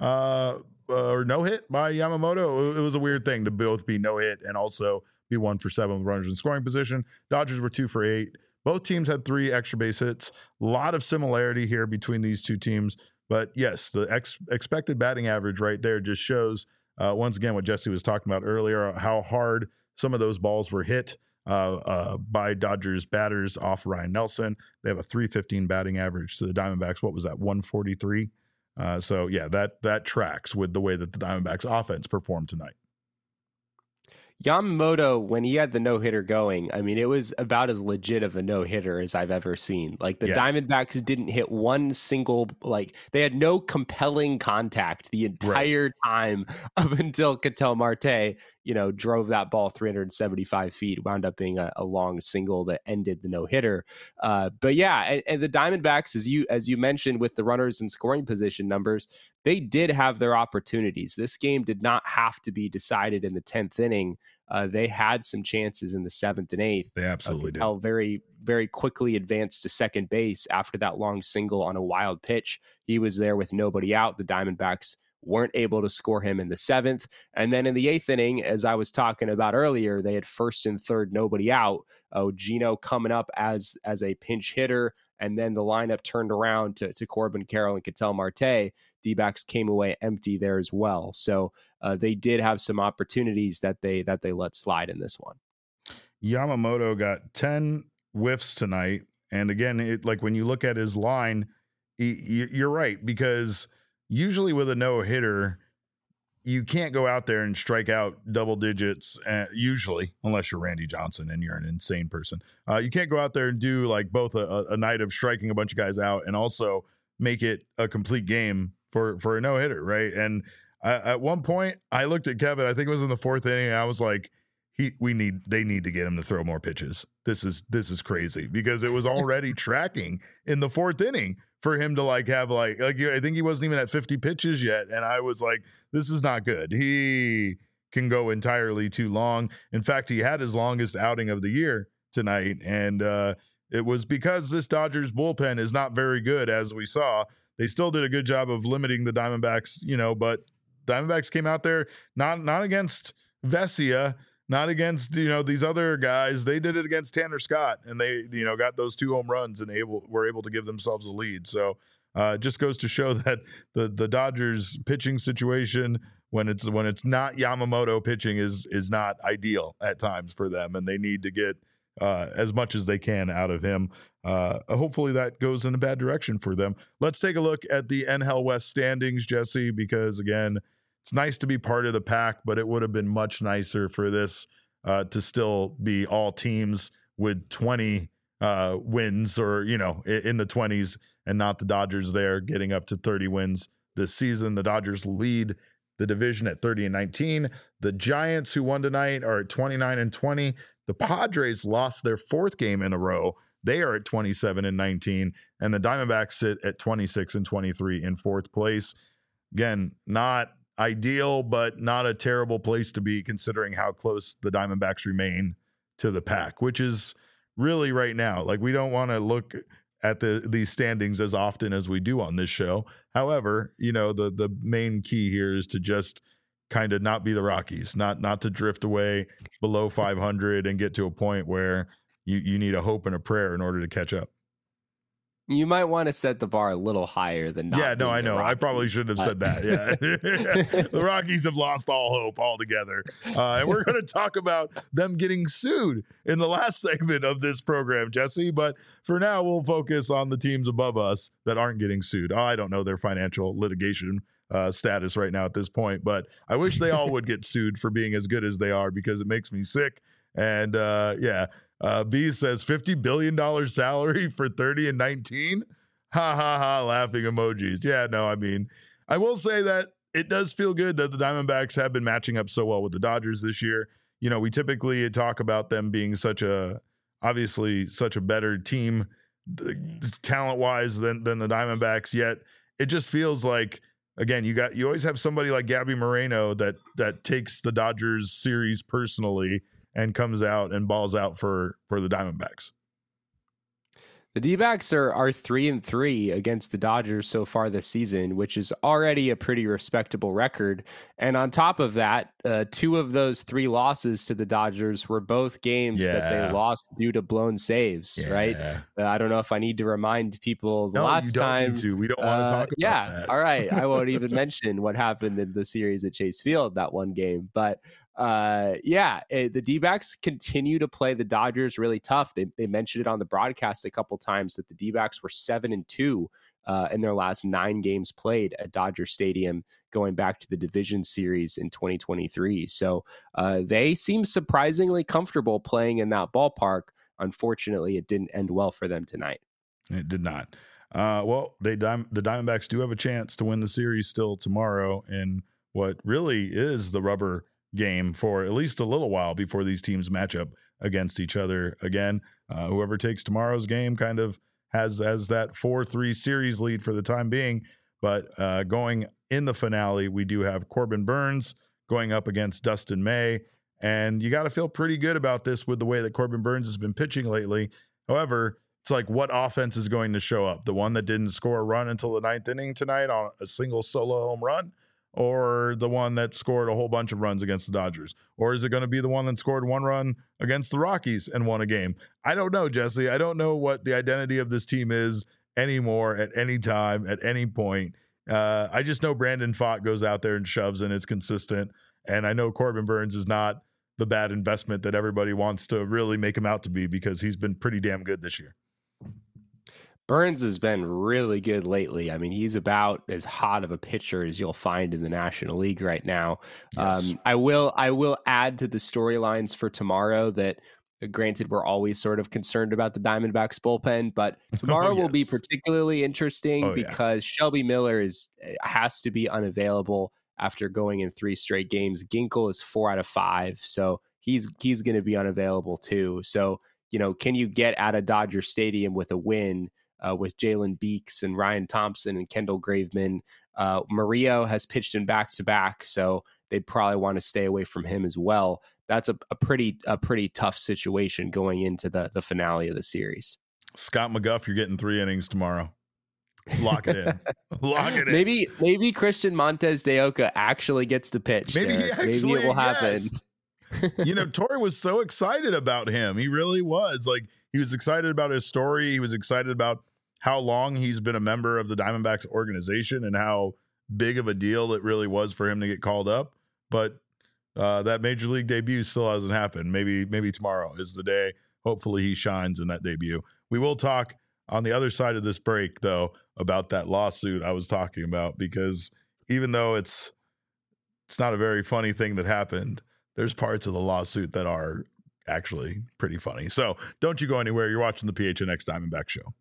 or no hit by Yamamoto. It was a weird thing to both be no hit and also be 1 for 7 with runners in scoring position. Dodgers were 2 for 8. Both teams had 3 extra base hits. A lot of similarity here between these two teams. But yes, the expected batting average right there just shows, once again, what Jesse was talking about earlier, how hard some of those balls were hit by Dodgers batters off Ryan Nelson. They have a .315 batting average to the Diamondbacks. What was that, 143? So, yeah, that tracks with the way that the Diamondbacks offense performed tonight. Yamamoto, when he had the no-hitter going, I mean, it was about as legit of a no-hitter as I've ever seen. Like, the Diamondbacks didn't hit one single, like, they had no compelling contact the entire time up until Ketel Marte, drove that ball 375 feet, wound up being a long single that ended the no-hitter. But yeah, and the Diamondbacks, as you mentioned, with the runners in scoring position numbers, they did have their opportunities. This game did not have to be decided in the 10th inning. They had some chances in the 7th and 8th. They absolutely did. Ketel very, very quickly advanced to second base after that long single on a wild pitch. He was there with nobody out. The Diamondbacks weren't able to score him in the 7th. And then in the 8th inning, as I was talking about earlier, they had 1st and 3rd, nobody out. Gino coming up as a pinch hitter, and then the lineup turned around to Corbin Carroll and Ketel Marte. D-backs came away empty there as well. So they did have some opportunities that they let slide in this one. Yamamoto got 10 whiffs tonight. And again, when you look at his line, you're right, because usually with a no-hitter, you can't go out there and strike out double digits, usually, unless you're Randy Johnson and you're an insane person. You can't go out there and do like both a night of striking a bunch of guys out and also make it a complete game for a no-hitter, right? And at one point, I looked at Kevin, I think it was in the 4th inning, and I was like, they need to get him to throw more pitches. This is crazy, because it was already tracking in the 4th inning for him to have I think he wasn't even at 50 pitches yet. And I was like, this is not good. He can go entirely too long. In fact, he had his longest outing of the year tonight. And it was because this Dodgers bullpen is not very good, as we saw. They still did a good job of limiting the Diamondbacks, but Diamondbacks came out there, not against Vesia, not against, these other guys. They did it against Tanner Scott, and they, got those 2 home runs and were able to give themselves a lead. So just goes to show that the Dodgers pitching situation, when it's not Yamamoto pitching, is not ideal at times for them, and they need to get as much as they can out of him. Hopefully that goes in a bad direction for them. Let's take a look at the NL West standings, Jesse, because again, it's nice to be part of the pack, but it would have been much nicer for this to still be all teams with 20 wins, or, in the 20s, and not the Dodgers there getting up to 30 wins this season. The Dodgers lead the division at 30-19. The Giants, who won tonight, are at 29-20. The Padres lost their 4th game in a row. They are at 27-19, and the Diamondbacks sit at 26-23 in 4th place. Again, not ideal, but not a terrible place to be, considering how close the Diamondbacks remain to the pack, which is really right now. We don't want to look at these standings as often as we do on this show. However, the main key here is to just kind of not be the Rockies, not to drift away below 500 and get to a point where you need a hope and a prayer in order to catch up. You might want to set the bar a little higher than not. Yeah, no, I know. I probably shouldn't have said that. Yeah. The Rockies have lost all hope altogether. And we're going to talk about them getting sued in the last segment of this program, Jesse. But for now, we'll focus on the teams above us that aren't getting sued. I don't know their financial litigation status right now at this point, but I wish they all would get sued for being as good as they are, because it makes me sick. And B says $50 billion salary for 30-19. Ha ha ha, laughing emojis. Yeah, no, I mean, I will say that it does feel good that the Diamondbacks have been matching up so well with the Dodgers this year. We typically talk about them being obviously such a better team talent-wise than the Diamondbacks, yet it just feels like, again, you always have somebody like Gabby Moreno that takes the Dodgers series personally and comes out and balls out for the Diamondbacks. The D-backs are 3-3 against the Dodgers so far this season, which is already a pretty respectable record. And on top of that, 2 of those 3 losses to the Dodgers were both games that they lost due to blown saves, right? I don't know if I need to remind people last time. We don't want to talk about that. All right. I won't even mention what happened in the series at Chase Field, that one game. But the D-backs continue to play the Dodgers really tough. They mentioned it on the broadcast a couple times that the D-backs were 7-2 in their last 9 games played at Dodger Stadium, going back to the division series in 2023. So they seem surprisingly comfortable playing in that ballpark. Unfortunately, it didn't end well for them tonight. It did not. The Diamondbacks do have a chance to win the series still tomorrow in what really is the rubber game for at least a little while before these teams match up against each other again. Whoever takes tomorrow's game kind of has that 4-3 series lead for the time being. But going in the finale, we do have Corbin Burnes going up against Dustin May. And you got to feel pretty good about this with the way that Corbin Burnes has been pitching lately. However, it's like, what offense is going to show up? The one that didn't score a run until the 9th inning tonight on a single solo home run? Or the one that scored a whole bunch of runs against the Dodgers? Or is it going to be the one that scored 1 run against the Rockies and won a game? I don't know, Jesse. I don't know what the identity of this team is anymore at any time, at any point. I just know Brandon Pfaadt goes out there and shoves and is consistent. And I know Corbin Burnes is not the bad investment that everybody wants to really make him out to be, because he's been pretty damn good this year. Burnes has been really good lately. I mean, he's about as hot of a pitcher as you'll find in the National League right now. Yes. I will add to the storylines for tomorrow that, granted, we're always sort of concerned about the Diamondbacks bullpen, but tomorrow will be particularly interesting because Shelby Miller has to be unavailable after going in 3 straight games. Ginkel is 4 out of 5, so he's going to be unavailable too. So, can you get out of Dodger Stadium with a win? With Jalen Beeks and Ryan Thompson and Kendall Graveman. Murillo has pitched in back-to-back, so they'd probably want to stay away from him as well. That's a pretty tough situation going into the finale of the series. Scott McGough, you're getting 3 innings tomorrow. Lock it in. Lock it in. Maybe Christian Montes de Oca actually gets to pitch. Maybe it will happen. Yes. Torey was so excited about him. He really was. Like, he was excited about his story. He was excited about how long he's been a member of the Diamondbacks organization and how big of a deal it really was for him to get called up. But that major league debut still hasn't happened. Maybe tomorrow is the day. Hopefully he shines in that debut. We will talk on the other side of this break, though, about that lawsuit I was talking about, because even though it's not a very funny thing that happened, there's parts of the lawsuit that are actually pretty funny. So don't you go anywhere. You're watching the PHNX Diamondback Show.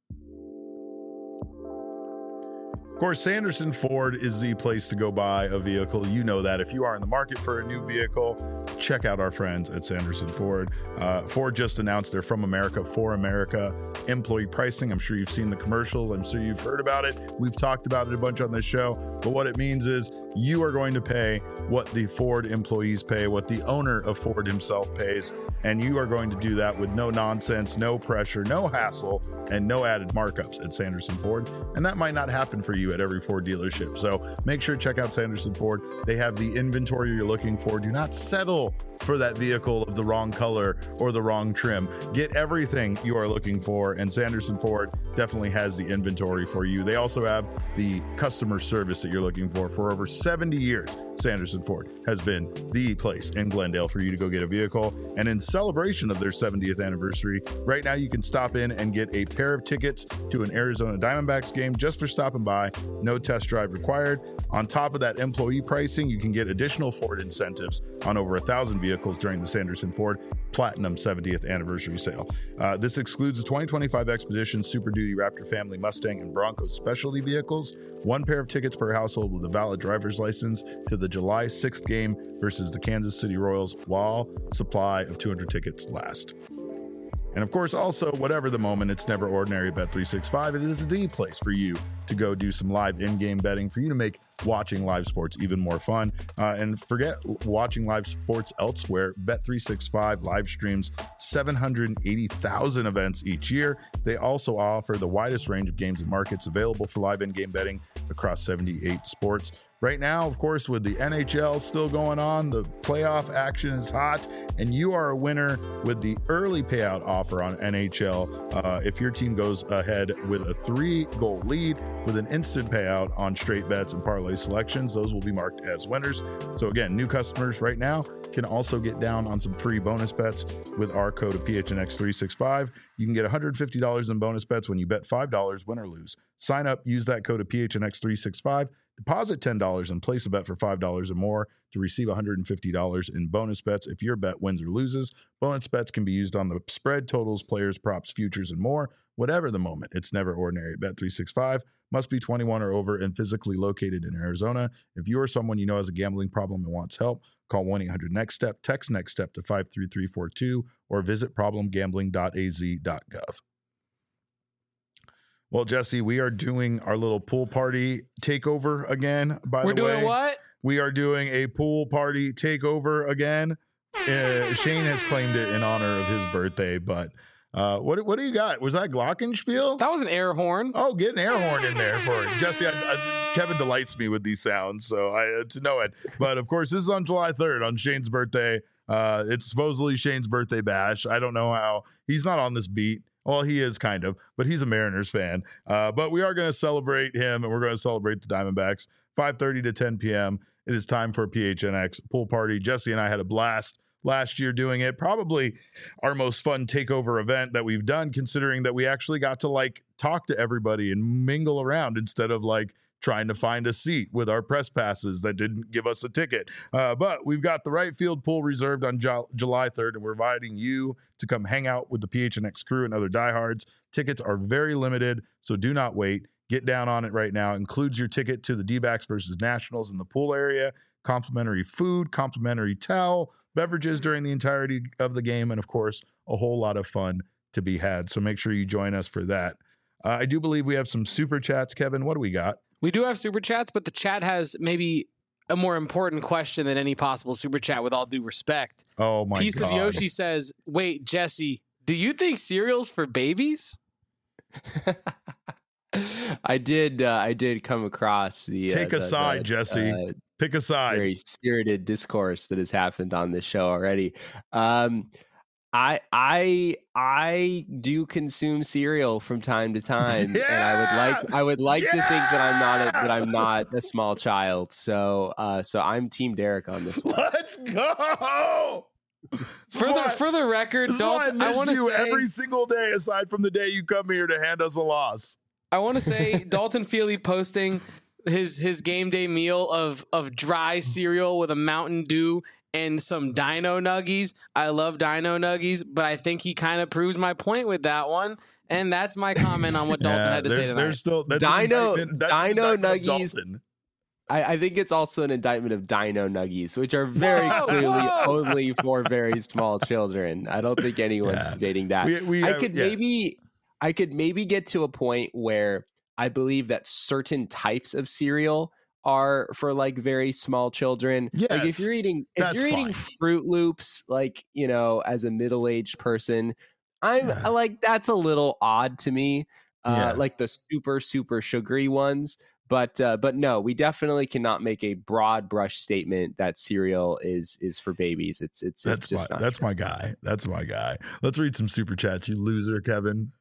Of course, Sanderson Ford is the place to go buy a vehicle. You know that. If you are in the market for a new vehicle, check out our friends at Sanderson Ford. Ford just announced their From America for America employee pricing. I'm sure you've seen the commercials. I'm sure you've heard about it. We've talked about it a bunch on this show. But what it means is you are going to pay what the Ford employees pay, what the owner of Ford himself pays, and you are going to do that with no nonsense, no pressure, no hassle, and no added markups at Sanderson Ford. And that might not happen for you at every Ford dealership. So make sure to check out Sanderson Ford. They have the inventory you're looking for. Do not settle for that vehicle of the wrong color or the wrong trim. Get everything you are looking for, and Sanderson Ford definitely has the inventory for you. They also have the customer service that you're looking for. For over 70 years, Sanderson Ford has been the place in Glendale for you to go get a vehicle. And in celebration of their 70th anniversary, right now you can stop in and get a pair of tickets to an Arizona Diamondbacks game just for stopping by. No test drive required. On top of that employee pricing, you can get additional Ford incentives on over 1,000 vehicles during the Sanderson Ford Platinum 70th anniversary sale. This excludes the 2025 Expedition, Super Duty, Raptor Family, Mustang, and Bronco specialty vehicles. 1 pair of tickets per household with a valid driver's license to the July 6th game versus the Kansas City Royals while supply of 200 tickets last. And of course, also, whatever the moment, it's never ordinary at Bet365. It is the place for you to go do some live in-game betting, for you to make watching live sports even more fun. And forget watching live sports elsewhere. Bet365 live streams 780,000 events each year. They also offer the widest range of games and markets available for live in-game betting across 78 sports. Right now, of course, with the NHL still going on, the playoff action is hot, and you are a winner with the early payout offer on NHL. If your team goes ahead with a 3-goal lead with an instant payout on straight bets and parlay selections, those will be marked as winners. So again, new customers right now can also get down on some free bonus bets with our code of PHNX365. You can get $150 in bonus bets when you bet $5, win or lose. Sign up, use that code of PHNX365. Deposit $10 and place a bet for $5 or more to receive $150 in bonus bets if your bet wins or loses. Bonus bets can be used on the spread, totals, players, props, futures, and more. Whatever the moment, it's never ordinary at Bet365. Must be 21 or over and physically located in Arizona. If you or someone you know has a gambling problem and wants help, call 1-800-NEXT-STEP, text NEXT STEP to 53342, or visit problemgambling.az.gov. Well, Jesse, we are doing our little pool party takeover again, by the way. We're doing what? We are doing a pool party takeover again. Shane has claimed it in honor of his birthday, but what do you got? Was that Glockenspiel? That was an air horn. Oh, get an air horn in there for it. Jesse, Kevin delights me with these sounds, so to know it. But, of course, this is on July 3rd, on Shane's birthday. It's supposedly Shane's birthday bash. I don't know how. He's not on this beat. Well, he is kind of, but he's a Mariners fan. But we are going to celebrate him, and we're going to celebrate the Diamondbacks. 5:30 to 10 p.m. It is time for a PHNX pool party. Jesse and I had a blast last year doing it. Probably our most fun takeover event that we've done, considering that we actually got to talk to everybody and mingle around instead of trying to find a seat with our press passes that didn't give us a ticket. But we've got the right field pool reserved on July 3rd, and we're inviting you to come hang out with the PHNX crew and other diehards. Tickets are very limited, so do not wait. Get down on it right now. Includes your ticket to the D-backs versus Nationals in the pool area, complimentary food, complimentary towel, beverages during the entirety of the game, and, of course, a whole lot of fun to be had. So make sure you join us for that. I do believe we have some super chats. Kevin, what do we got? We do have super chats, but the chat has maybe a more important question than any possible super chat, with all due respect. Oh, my God. Piece of Yoshi says, wait, Jesse, do you think cereal's for babies? I did come across the take a side, Jesse. Pick a side. Very spirited discourse that has happened on this show already. I do consume cereal from time to time, yeah! and I would like to think that I'm not a small child. So I'm Team Derek on this one. Let's go. For the record, Dalton, I want to say every single day aside from the day you come here to hand us a loss. I want to say Dalton Feely posting his game day meal of dry cereal with a Mountain Dew and some Dino Nuggies. I love Dino Nuggies, but I think he kind of proves my point with that one. And that's my comment on what Dalton had to say tonight. There's still Dino Nuggies. Dalton. I think it's also an indictment of Dino Nuggies, which are very clearly only for very small children. I don't think anyone's debating that. I could maybe get to a point where I believe that certain types of cereal are for very small children. Yes, if you're eating Fruit Loops, as a middle-aged person, I'm that's a little odd to me. The super, super sugary ones. But no, we definitely cannot make a broad brush statement that cereal is for babies. That's my guy. That's my guy. Let's read some super chats, you loser, Kevin.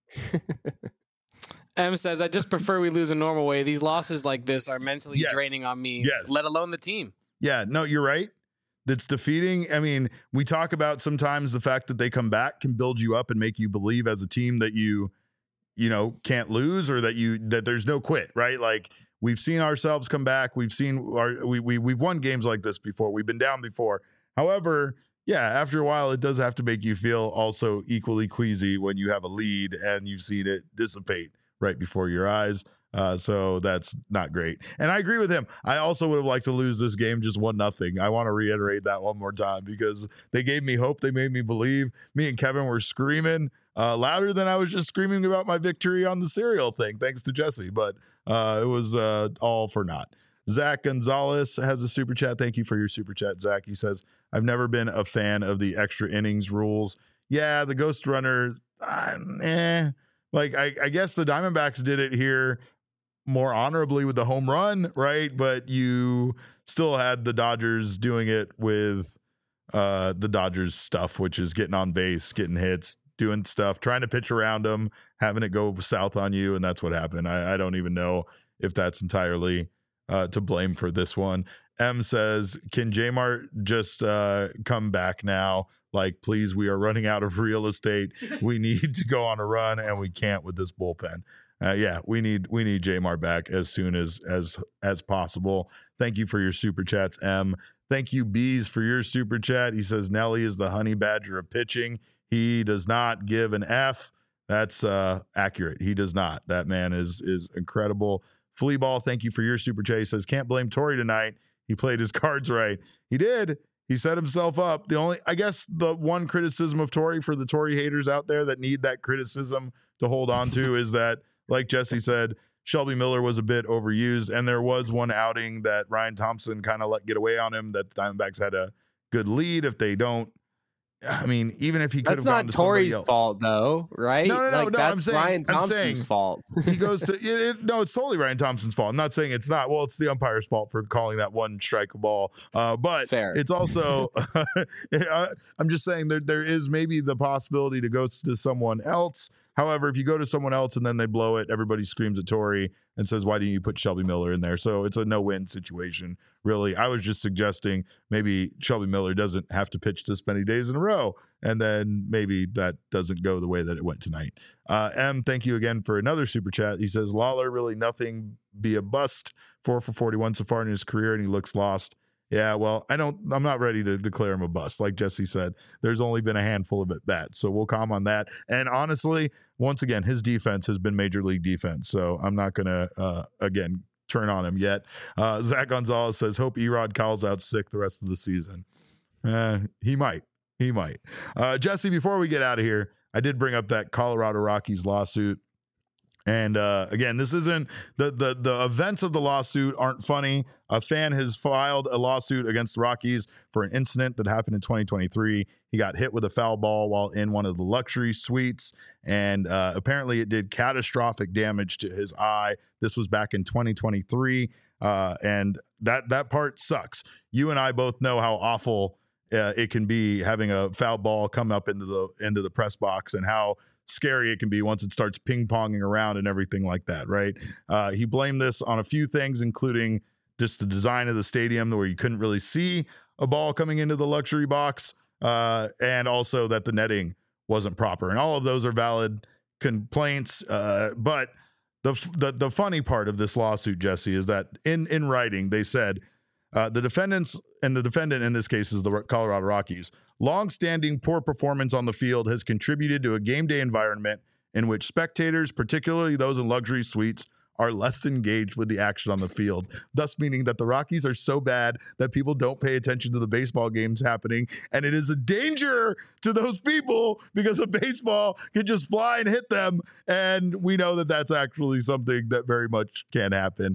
M says, I just prefer we lose a normal way. These losses like this are mentally draining on me, let alone the team. Yeah, no, you're right. That's defeating. I mean, we talk about sometimes the fact that they come back can build you up and make you believe as a team that you can't lose, or that there's no quit, right? We've seen ourselves come back. We've seen we've won games like this before. We've been down before. However, after a while, it does have to make you feel also equally queasy when you have a lead and you've seen it dissipate right before your eyes. So that's not great. And I agree with him. I also would have liked to lose this game just 1-0. I want to reiterate that one more time because they gave me hope. They made me believe. Me and Kevin were screaming louder than I was just screaming about my victory on the cereal thing, thanks to Jesse. But it was all for naught. Zach Gonzalez has a super chat. Thank you for your super chat, Zach. He says, I've never been a fan of the extra innings rules. Yeah, the Ghost Runner, Like, I guess the Diamondbacks did it here more honorably with the home run, right? But you still had the Dodgers doing it with the Dodgers stuff, which is getting on base, getting hits, doing stuff, trying to pitch around them, having it go south on you, and that's what happened. I don't even know if that's entirely to blame for this one. M says, can J-Mart just come back now? Like, please, we are running out of real estate. We need to go on a run, and we can't with this bullpen. Yeah, we need J-Mart back as soon as possible. Thank you for your super chats, M. Thank you, Bees, for your super chat. He says Nelly is the honey badger of pitching. He does not give an F. That's accurate. He does not. That man is incredible. Fleaball, thank you for your super chat. He says, can't blame Torey tonight. He played his cards right. He did. He set himself up. I guess the one criticism of Torey for the Torey haters out there that need that criticism to hold on to is that, like Jesse said, Shelby Miller was a bit overused, and there was one outing that Ryan Thompson kind of let get away on him that the Diamondbacks had a good lead. If they don't, I mean, even if he could have gone to somebody else. That's not Torey's fault, though, right? No. That's I'm saying Ryan Thompson's fault. He goes to no, it's totally Ryan Thompson's fault. I'm not saying it's not. Well, it's the umpire's fault for calling that one strike ball. But fair. It's also I'm just saying there is maybe the possibility to go to someone else. However, if you go to someone else and then they blow it, everybody screams at Torey and says, why didn't you put Shelby Miller in there? So it's a no-win situation, really. I was just suggesting maybe Shelby Miller doesn't have to pitch this many days in a row, and then maybe that doesn't go the way that it went tonight. M, thank you again for another super chat. He says, Lawler, really nothing, be a bust, 4 for 41 so far in his career, and he looks lost. Yeah, well, I'm not ready to declare him a bust. Like Jesse said, there's only been a handful of at-bats, so we'll calm on that. And honestly, once again, his defense has been major league defense, so I'm not going to, again, turn on him yet. Zach Gonzalez says, hope Erod calls out sick the rest of the season. He might. Jesse, before we get out of here, I did bring up that Colorado Rockies lawsuit. And again, this isn't the events of the lawsuit aren't funny. A fan has filed a lawsuit against the Rockies for an incident that happened in 2023. He got hit with a foul ball while in one of the luxury suites, and apparently it did catastrophic damage to his eye. This was back in 2023, and that part sucks. You and I both know how awful it can be having a foul ball come up into the press box, and how scary it can be once it starts ping-ponging around and everything like that, right? He blamed this on a few things, including just the design of the stadium where you couldn't really see a ball coming into the luxury box, and also that the netting wasn't proper. And all of those are valid complaints. But the funny part of this lawsuit, Jesse, is that in writing, they said the defendants, and the defendant in this case is the Colorado Rockies, long-standing poor performance on the field has contributed to a game day environment in which spectators, particularly those in luxury suites, are less engaged with the action on the field, thus meaning that the Rockies are so bad that people don't pay attention to the baseball games happening, and it is a danger to those people because a baseball can just fly and hit them, and we know that that's actually something that very much can happen.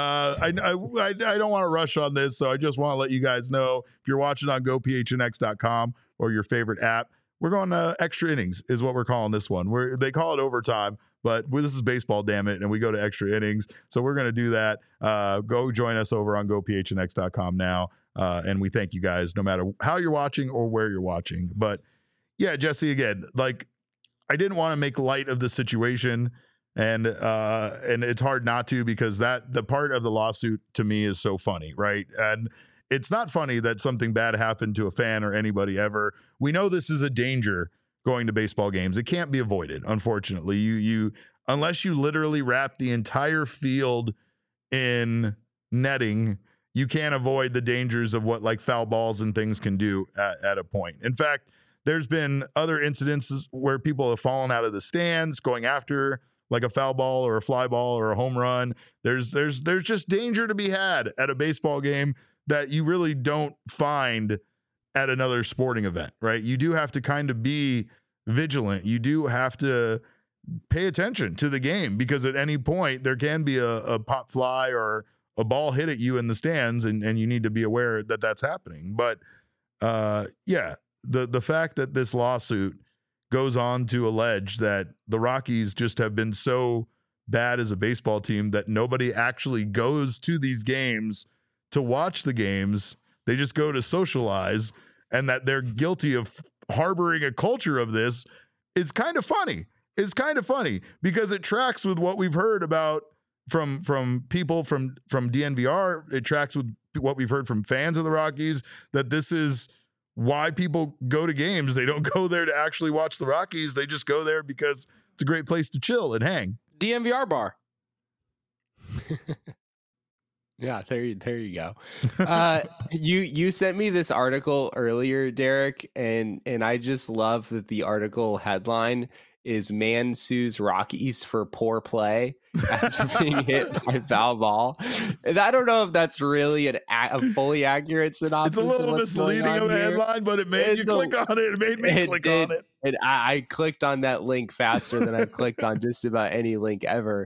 I don't want to rush on this, so I just want to let you guys know, if you're watching on gophnx.com or your favorite app, we're going to extra innings is what we're calling this one. They call it overtime, but this is baseball, damn it, and we go to extra innings. So we're going to do that. Go join us over on gophnx.com now, and we thank you guys no matter how you're watching or where you're watching. But yeah, Jesse, again, like, I didn't want to make light of the situation, and it's hard not to, because the part of the lawsuit to me is so funny, right? And it's not funny that something bad happened to a fan or anybody ever. We know this is a danger going to baseball games. It can't be avoided, unfortunately. You unless you literally wrap the entire field in netting, you can't avoid the dangers of what like foul balls and things can do at a point. In fact, there's been other incidences where people have fallen out of the stands going after like a foul ball or a fly ball or a home run. There's just danger to be had at a baseball game that you really don't find at another sporting event, right? You do have to kind of be vigilant. You do have to pay attention to the game, because at any point there can be a pop fly or a ball hit at you in the stands, and you need to be aware that that's happening. But the fact that this lawsuit goes on to allege that the Rockies just have been so bad as a baseball team that nobody actually goes to these games to watch the games. They just go to socialize, and that they're guilty of harboring a culture of this is kind of funny. It's kind of funny because it tracks with what we've heard about from people from DNVR. It tracks with what we've heard from fans of the Rockies, that this is why people go to games. They don't go there to actually watch the Rockies. They just go there because it's a great place to chill and hang. DNVR bar. Yeah, there you go. You sent me this article earlier, Derek, and I just love that the article headline is "Man Sues Rockies for Poor Play After Being Hit by Foul Ball." And I don't know if that's really a fully accurate synopsis. It's a little misleading of a headline, but it made you click on it. It made me click on it. And I clicked on that link faster than I clicked on just about any link ever.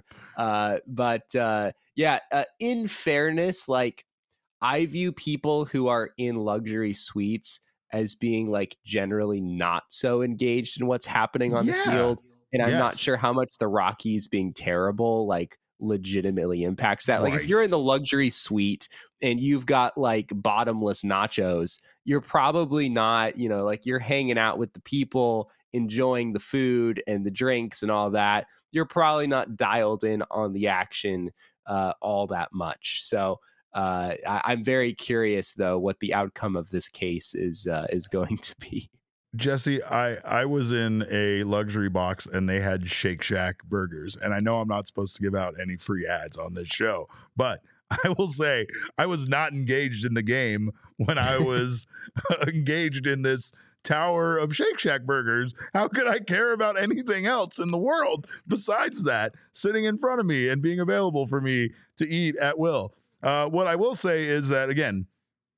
In fairness, like, I view people who are in luxury suites as being like generally not so engaged in what's happening on the field. And I'm not sure how much the Rockies being terrible like legitimately impacts that. Like, if you're in the luxury suite and you've got like bottomless nachos, you're probably not, like, you're hanging out with the people, enjoying the food and the drinks and all that. You're probably not dialed in on the action all that much. So I'm very curious, though, what the outcome of this case is going to be. Jesse, I was in a luxury box and they had Shake Shack burgers. And I know I'm not supposed to give out any free ads on this show, but I will say I was not engaged in the game when I was engaged in this tower of Shake Shack burgers. How could I care about anything else in the world besides that sitting in front of me and being available for me to eat at will? What I will say is that, again,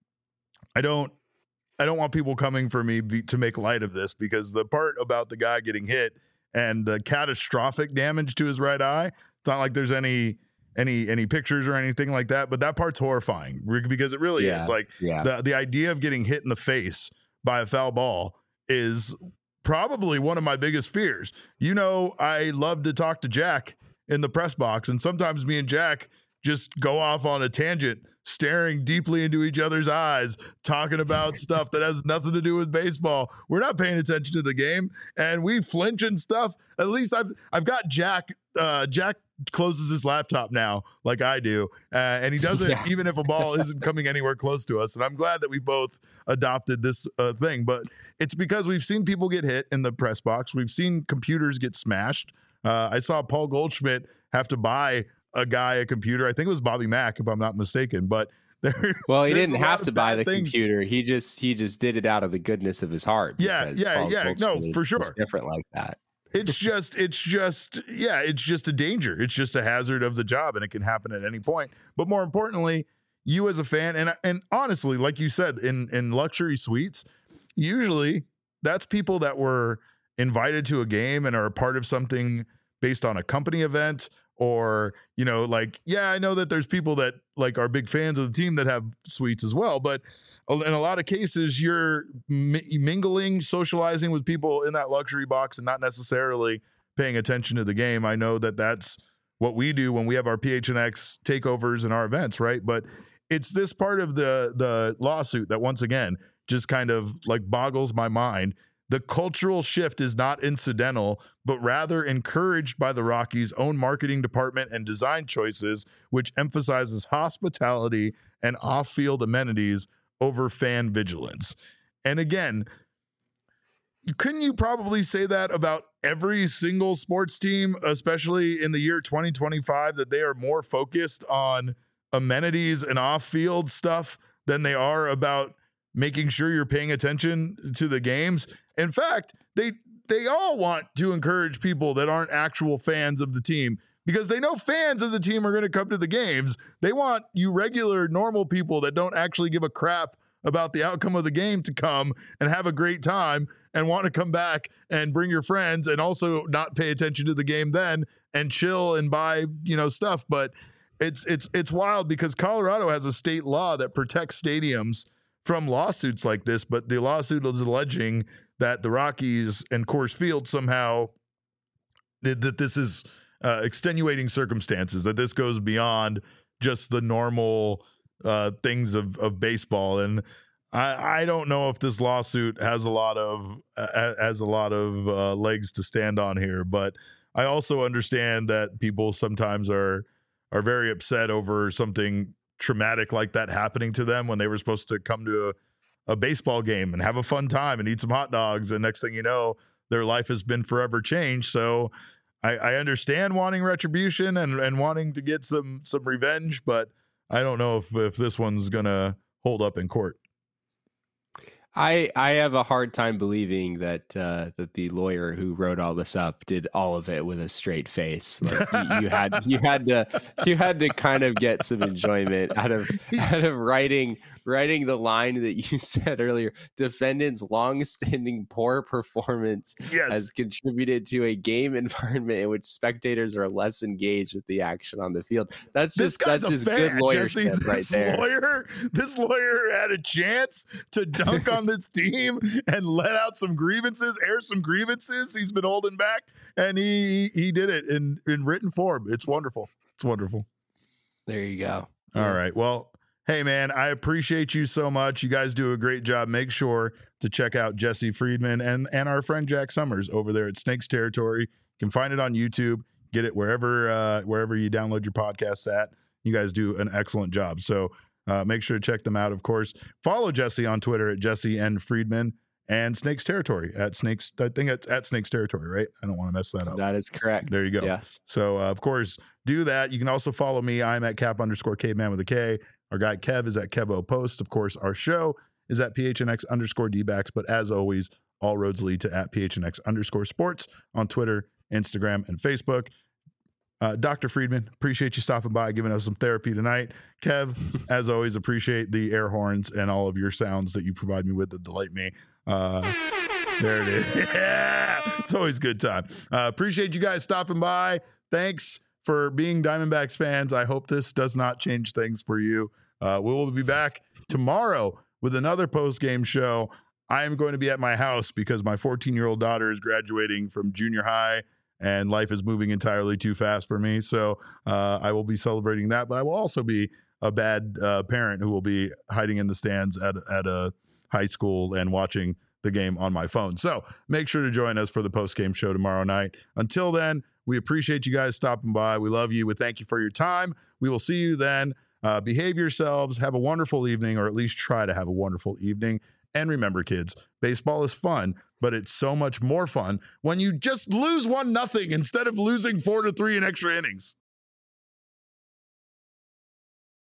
I don't want people coming for me to make light of this, because the part about the guy getting hit and the catastrophic damage to his right eye, it's not like there's any pictures or anything like that, but that part's horrifying, because it really is. Like, the idea of getting hit in the face by a foul ball is probably one of my biggest fears. I love to talk to Jack in the press box, and sometimes me and Jack just go off on a tangent, staring deeply into each other's eyes, talking about stuff that has nothing to do with baseball. We're not paying attention to the game, and we flinch and stuff. At least I've got Jack. Jack closes his laptop now, like I do, and he does it even if a ball isn't coming anywhere close to us. And I'm glad that we both adopted this thing. But it's because we've seen people get hit in the press box. We've seen computers get smashed. I saw Paul Goldschmidt have to buy a guy a computer. I think it was Bobby Mack, if I'm not mistaken. But he didn't have to buy the computer. He just did it out of the goodness of his heart. Yeah. No, for sure. Different like that. It's just a danger. It's just a hazard of the job, and it can happen at any point. But more importantly, you as a fan, and honestly, like you said, in luxury suites, usually that's people that were invited to a game and are a part of something based on a company event, or, I know that there's people that like are big fans of the team that have suites as well. But in a lot of cases, you're mingling, socializing with people in that luxury box and not necessarily paying attention to the game. I know that that's what we do when we have our PHNX takeovers and our events, right? But it's this part of the lawsuit that, once again, just kind of like boggles my mind. The cultural shift is not incidental, but rather encouraged by the Rockies' own marketing department and design choices, which emphasizes hospitality and off-field amenities over fan vigilance. And again, couldn't you probably say that about every single sports team, especially in the year 2025, that they are more focused on amenities and off-field stuff than they are about making sure you're paying attention to the games? In fact, they all want to encourage people that aren't actual fans of the team, because they know fans of the team are going to come to the games. They want you regular, normal people that don't actually give a crap about the outcome of the game to come and have a great time and want to come back and bring your friends and also not pay attention to the game then and chill and buy, stuff. But it's wild because Colorado has a state law that protects stadiums from lawsuits like this, but the lawsuit is alleging that the Rockies and Coors Field somehow that this is extenuating circumstances, that this goes beyond just the normal things of baseball. And I don't know if this lawsuit has a lot of legs to stand on here, but I also understand that people sometimes are very upset over something traumatic like that happening to them when they were supposed to come to a baseball game and have a fun time and eat some hot dogs, and next thing you know, their life has been forever changed. So I understand wanting retribution and wanting to get some revenge, but I don't know if this one's gonna hold up in court. I have a hard time believing that the lawyer who wrote all this up did all of it with a straight face. Like you had to kind of get some enjoyment out of writing the line that you said earlier. Defendant's long-standing poor performance has contributed to a game environment in which spectators are less engaged with the action on the field. That's just good lawyership right there. This lawyer had a chance to dunk on this team and let out some grievances, air some grievances he's been holding back, and he did it in written form. It's wonderful. It's wonderful. There you go. All right. Well, hey, man, I appreciate you so much. You guys do a great job. Make sure to check out Jesse Friedman and our friend Jack Summers over there at Snakes Territory. You can find it on YouTube. Get it wherever you download your podcasts at. You guys do an excellent job. So make sure to check them out, of course. Follow Jesse on Twitter at Jesse N. Friedman, and Snakes Territory at Snakes. I think it's at Snakes Territory, right? I don't want to mess that up. That is correct. There you go. Yes. So, of course, do that. You can also follow me. I'm at Cap_Caveman with a K. Our guy Kev is at Kevo Post. Of course, our show is at PHNX_DBacks. But as always, all roads lead to at PHNX_sports on Twitter, Instagram, and Facebook. Dr. Friedman, appreciate you stopping by, giving us some therapy tonight. Kev, as always, appreciate the air horns and all of your sounds that you provide me with that delight me. There it is. Yeah, it's always a good time. Appreciate you guys stopping by. Thanks for being Diamondbacks fans. I hope this does not change things for you. We will be back tomorrow with another post-game show. I am going to be at my house because my 14-year-old daughter is graduating from junior high, and life is moving entirely too fast for me. So I will be celebrating that, but I will also be a bad parent who will be hiding in the stands at a high school and watching the game on my phone. So make sure to join us for the post-game show tomorrow night. Until then, we appreciate you guys stopping by. We love you. We thank you for your time. We will see you then. Behave yourselves. Have a wonderful evening, or at least try to have a wonderful evening. And remember, kids, baseball is fun, but it's so much more fun when you just lose 1-0 instead of losing 4-3 in extra innings.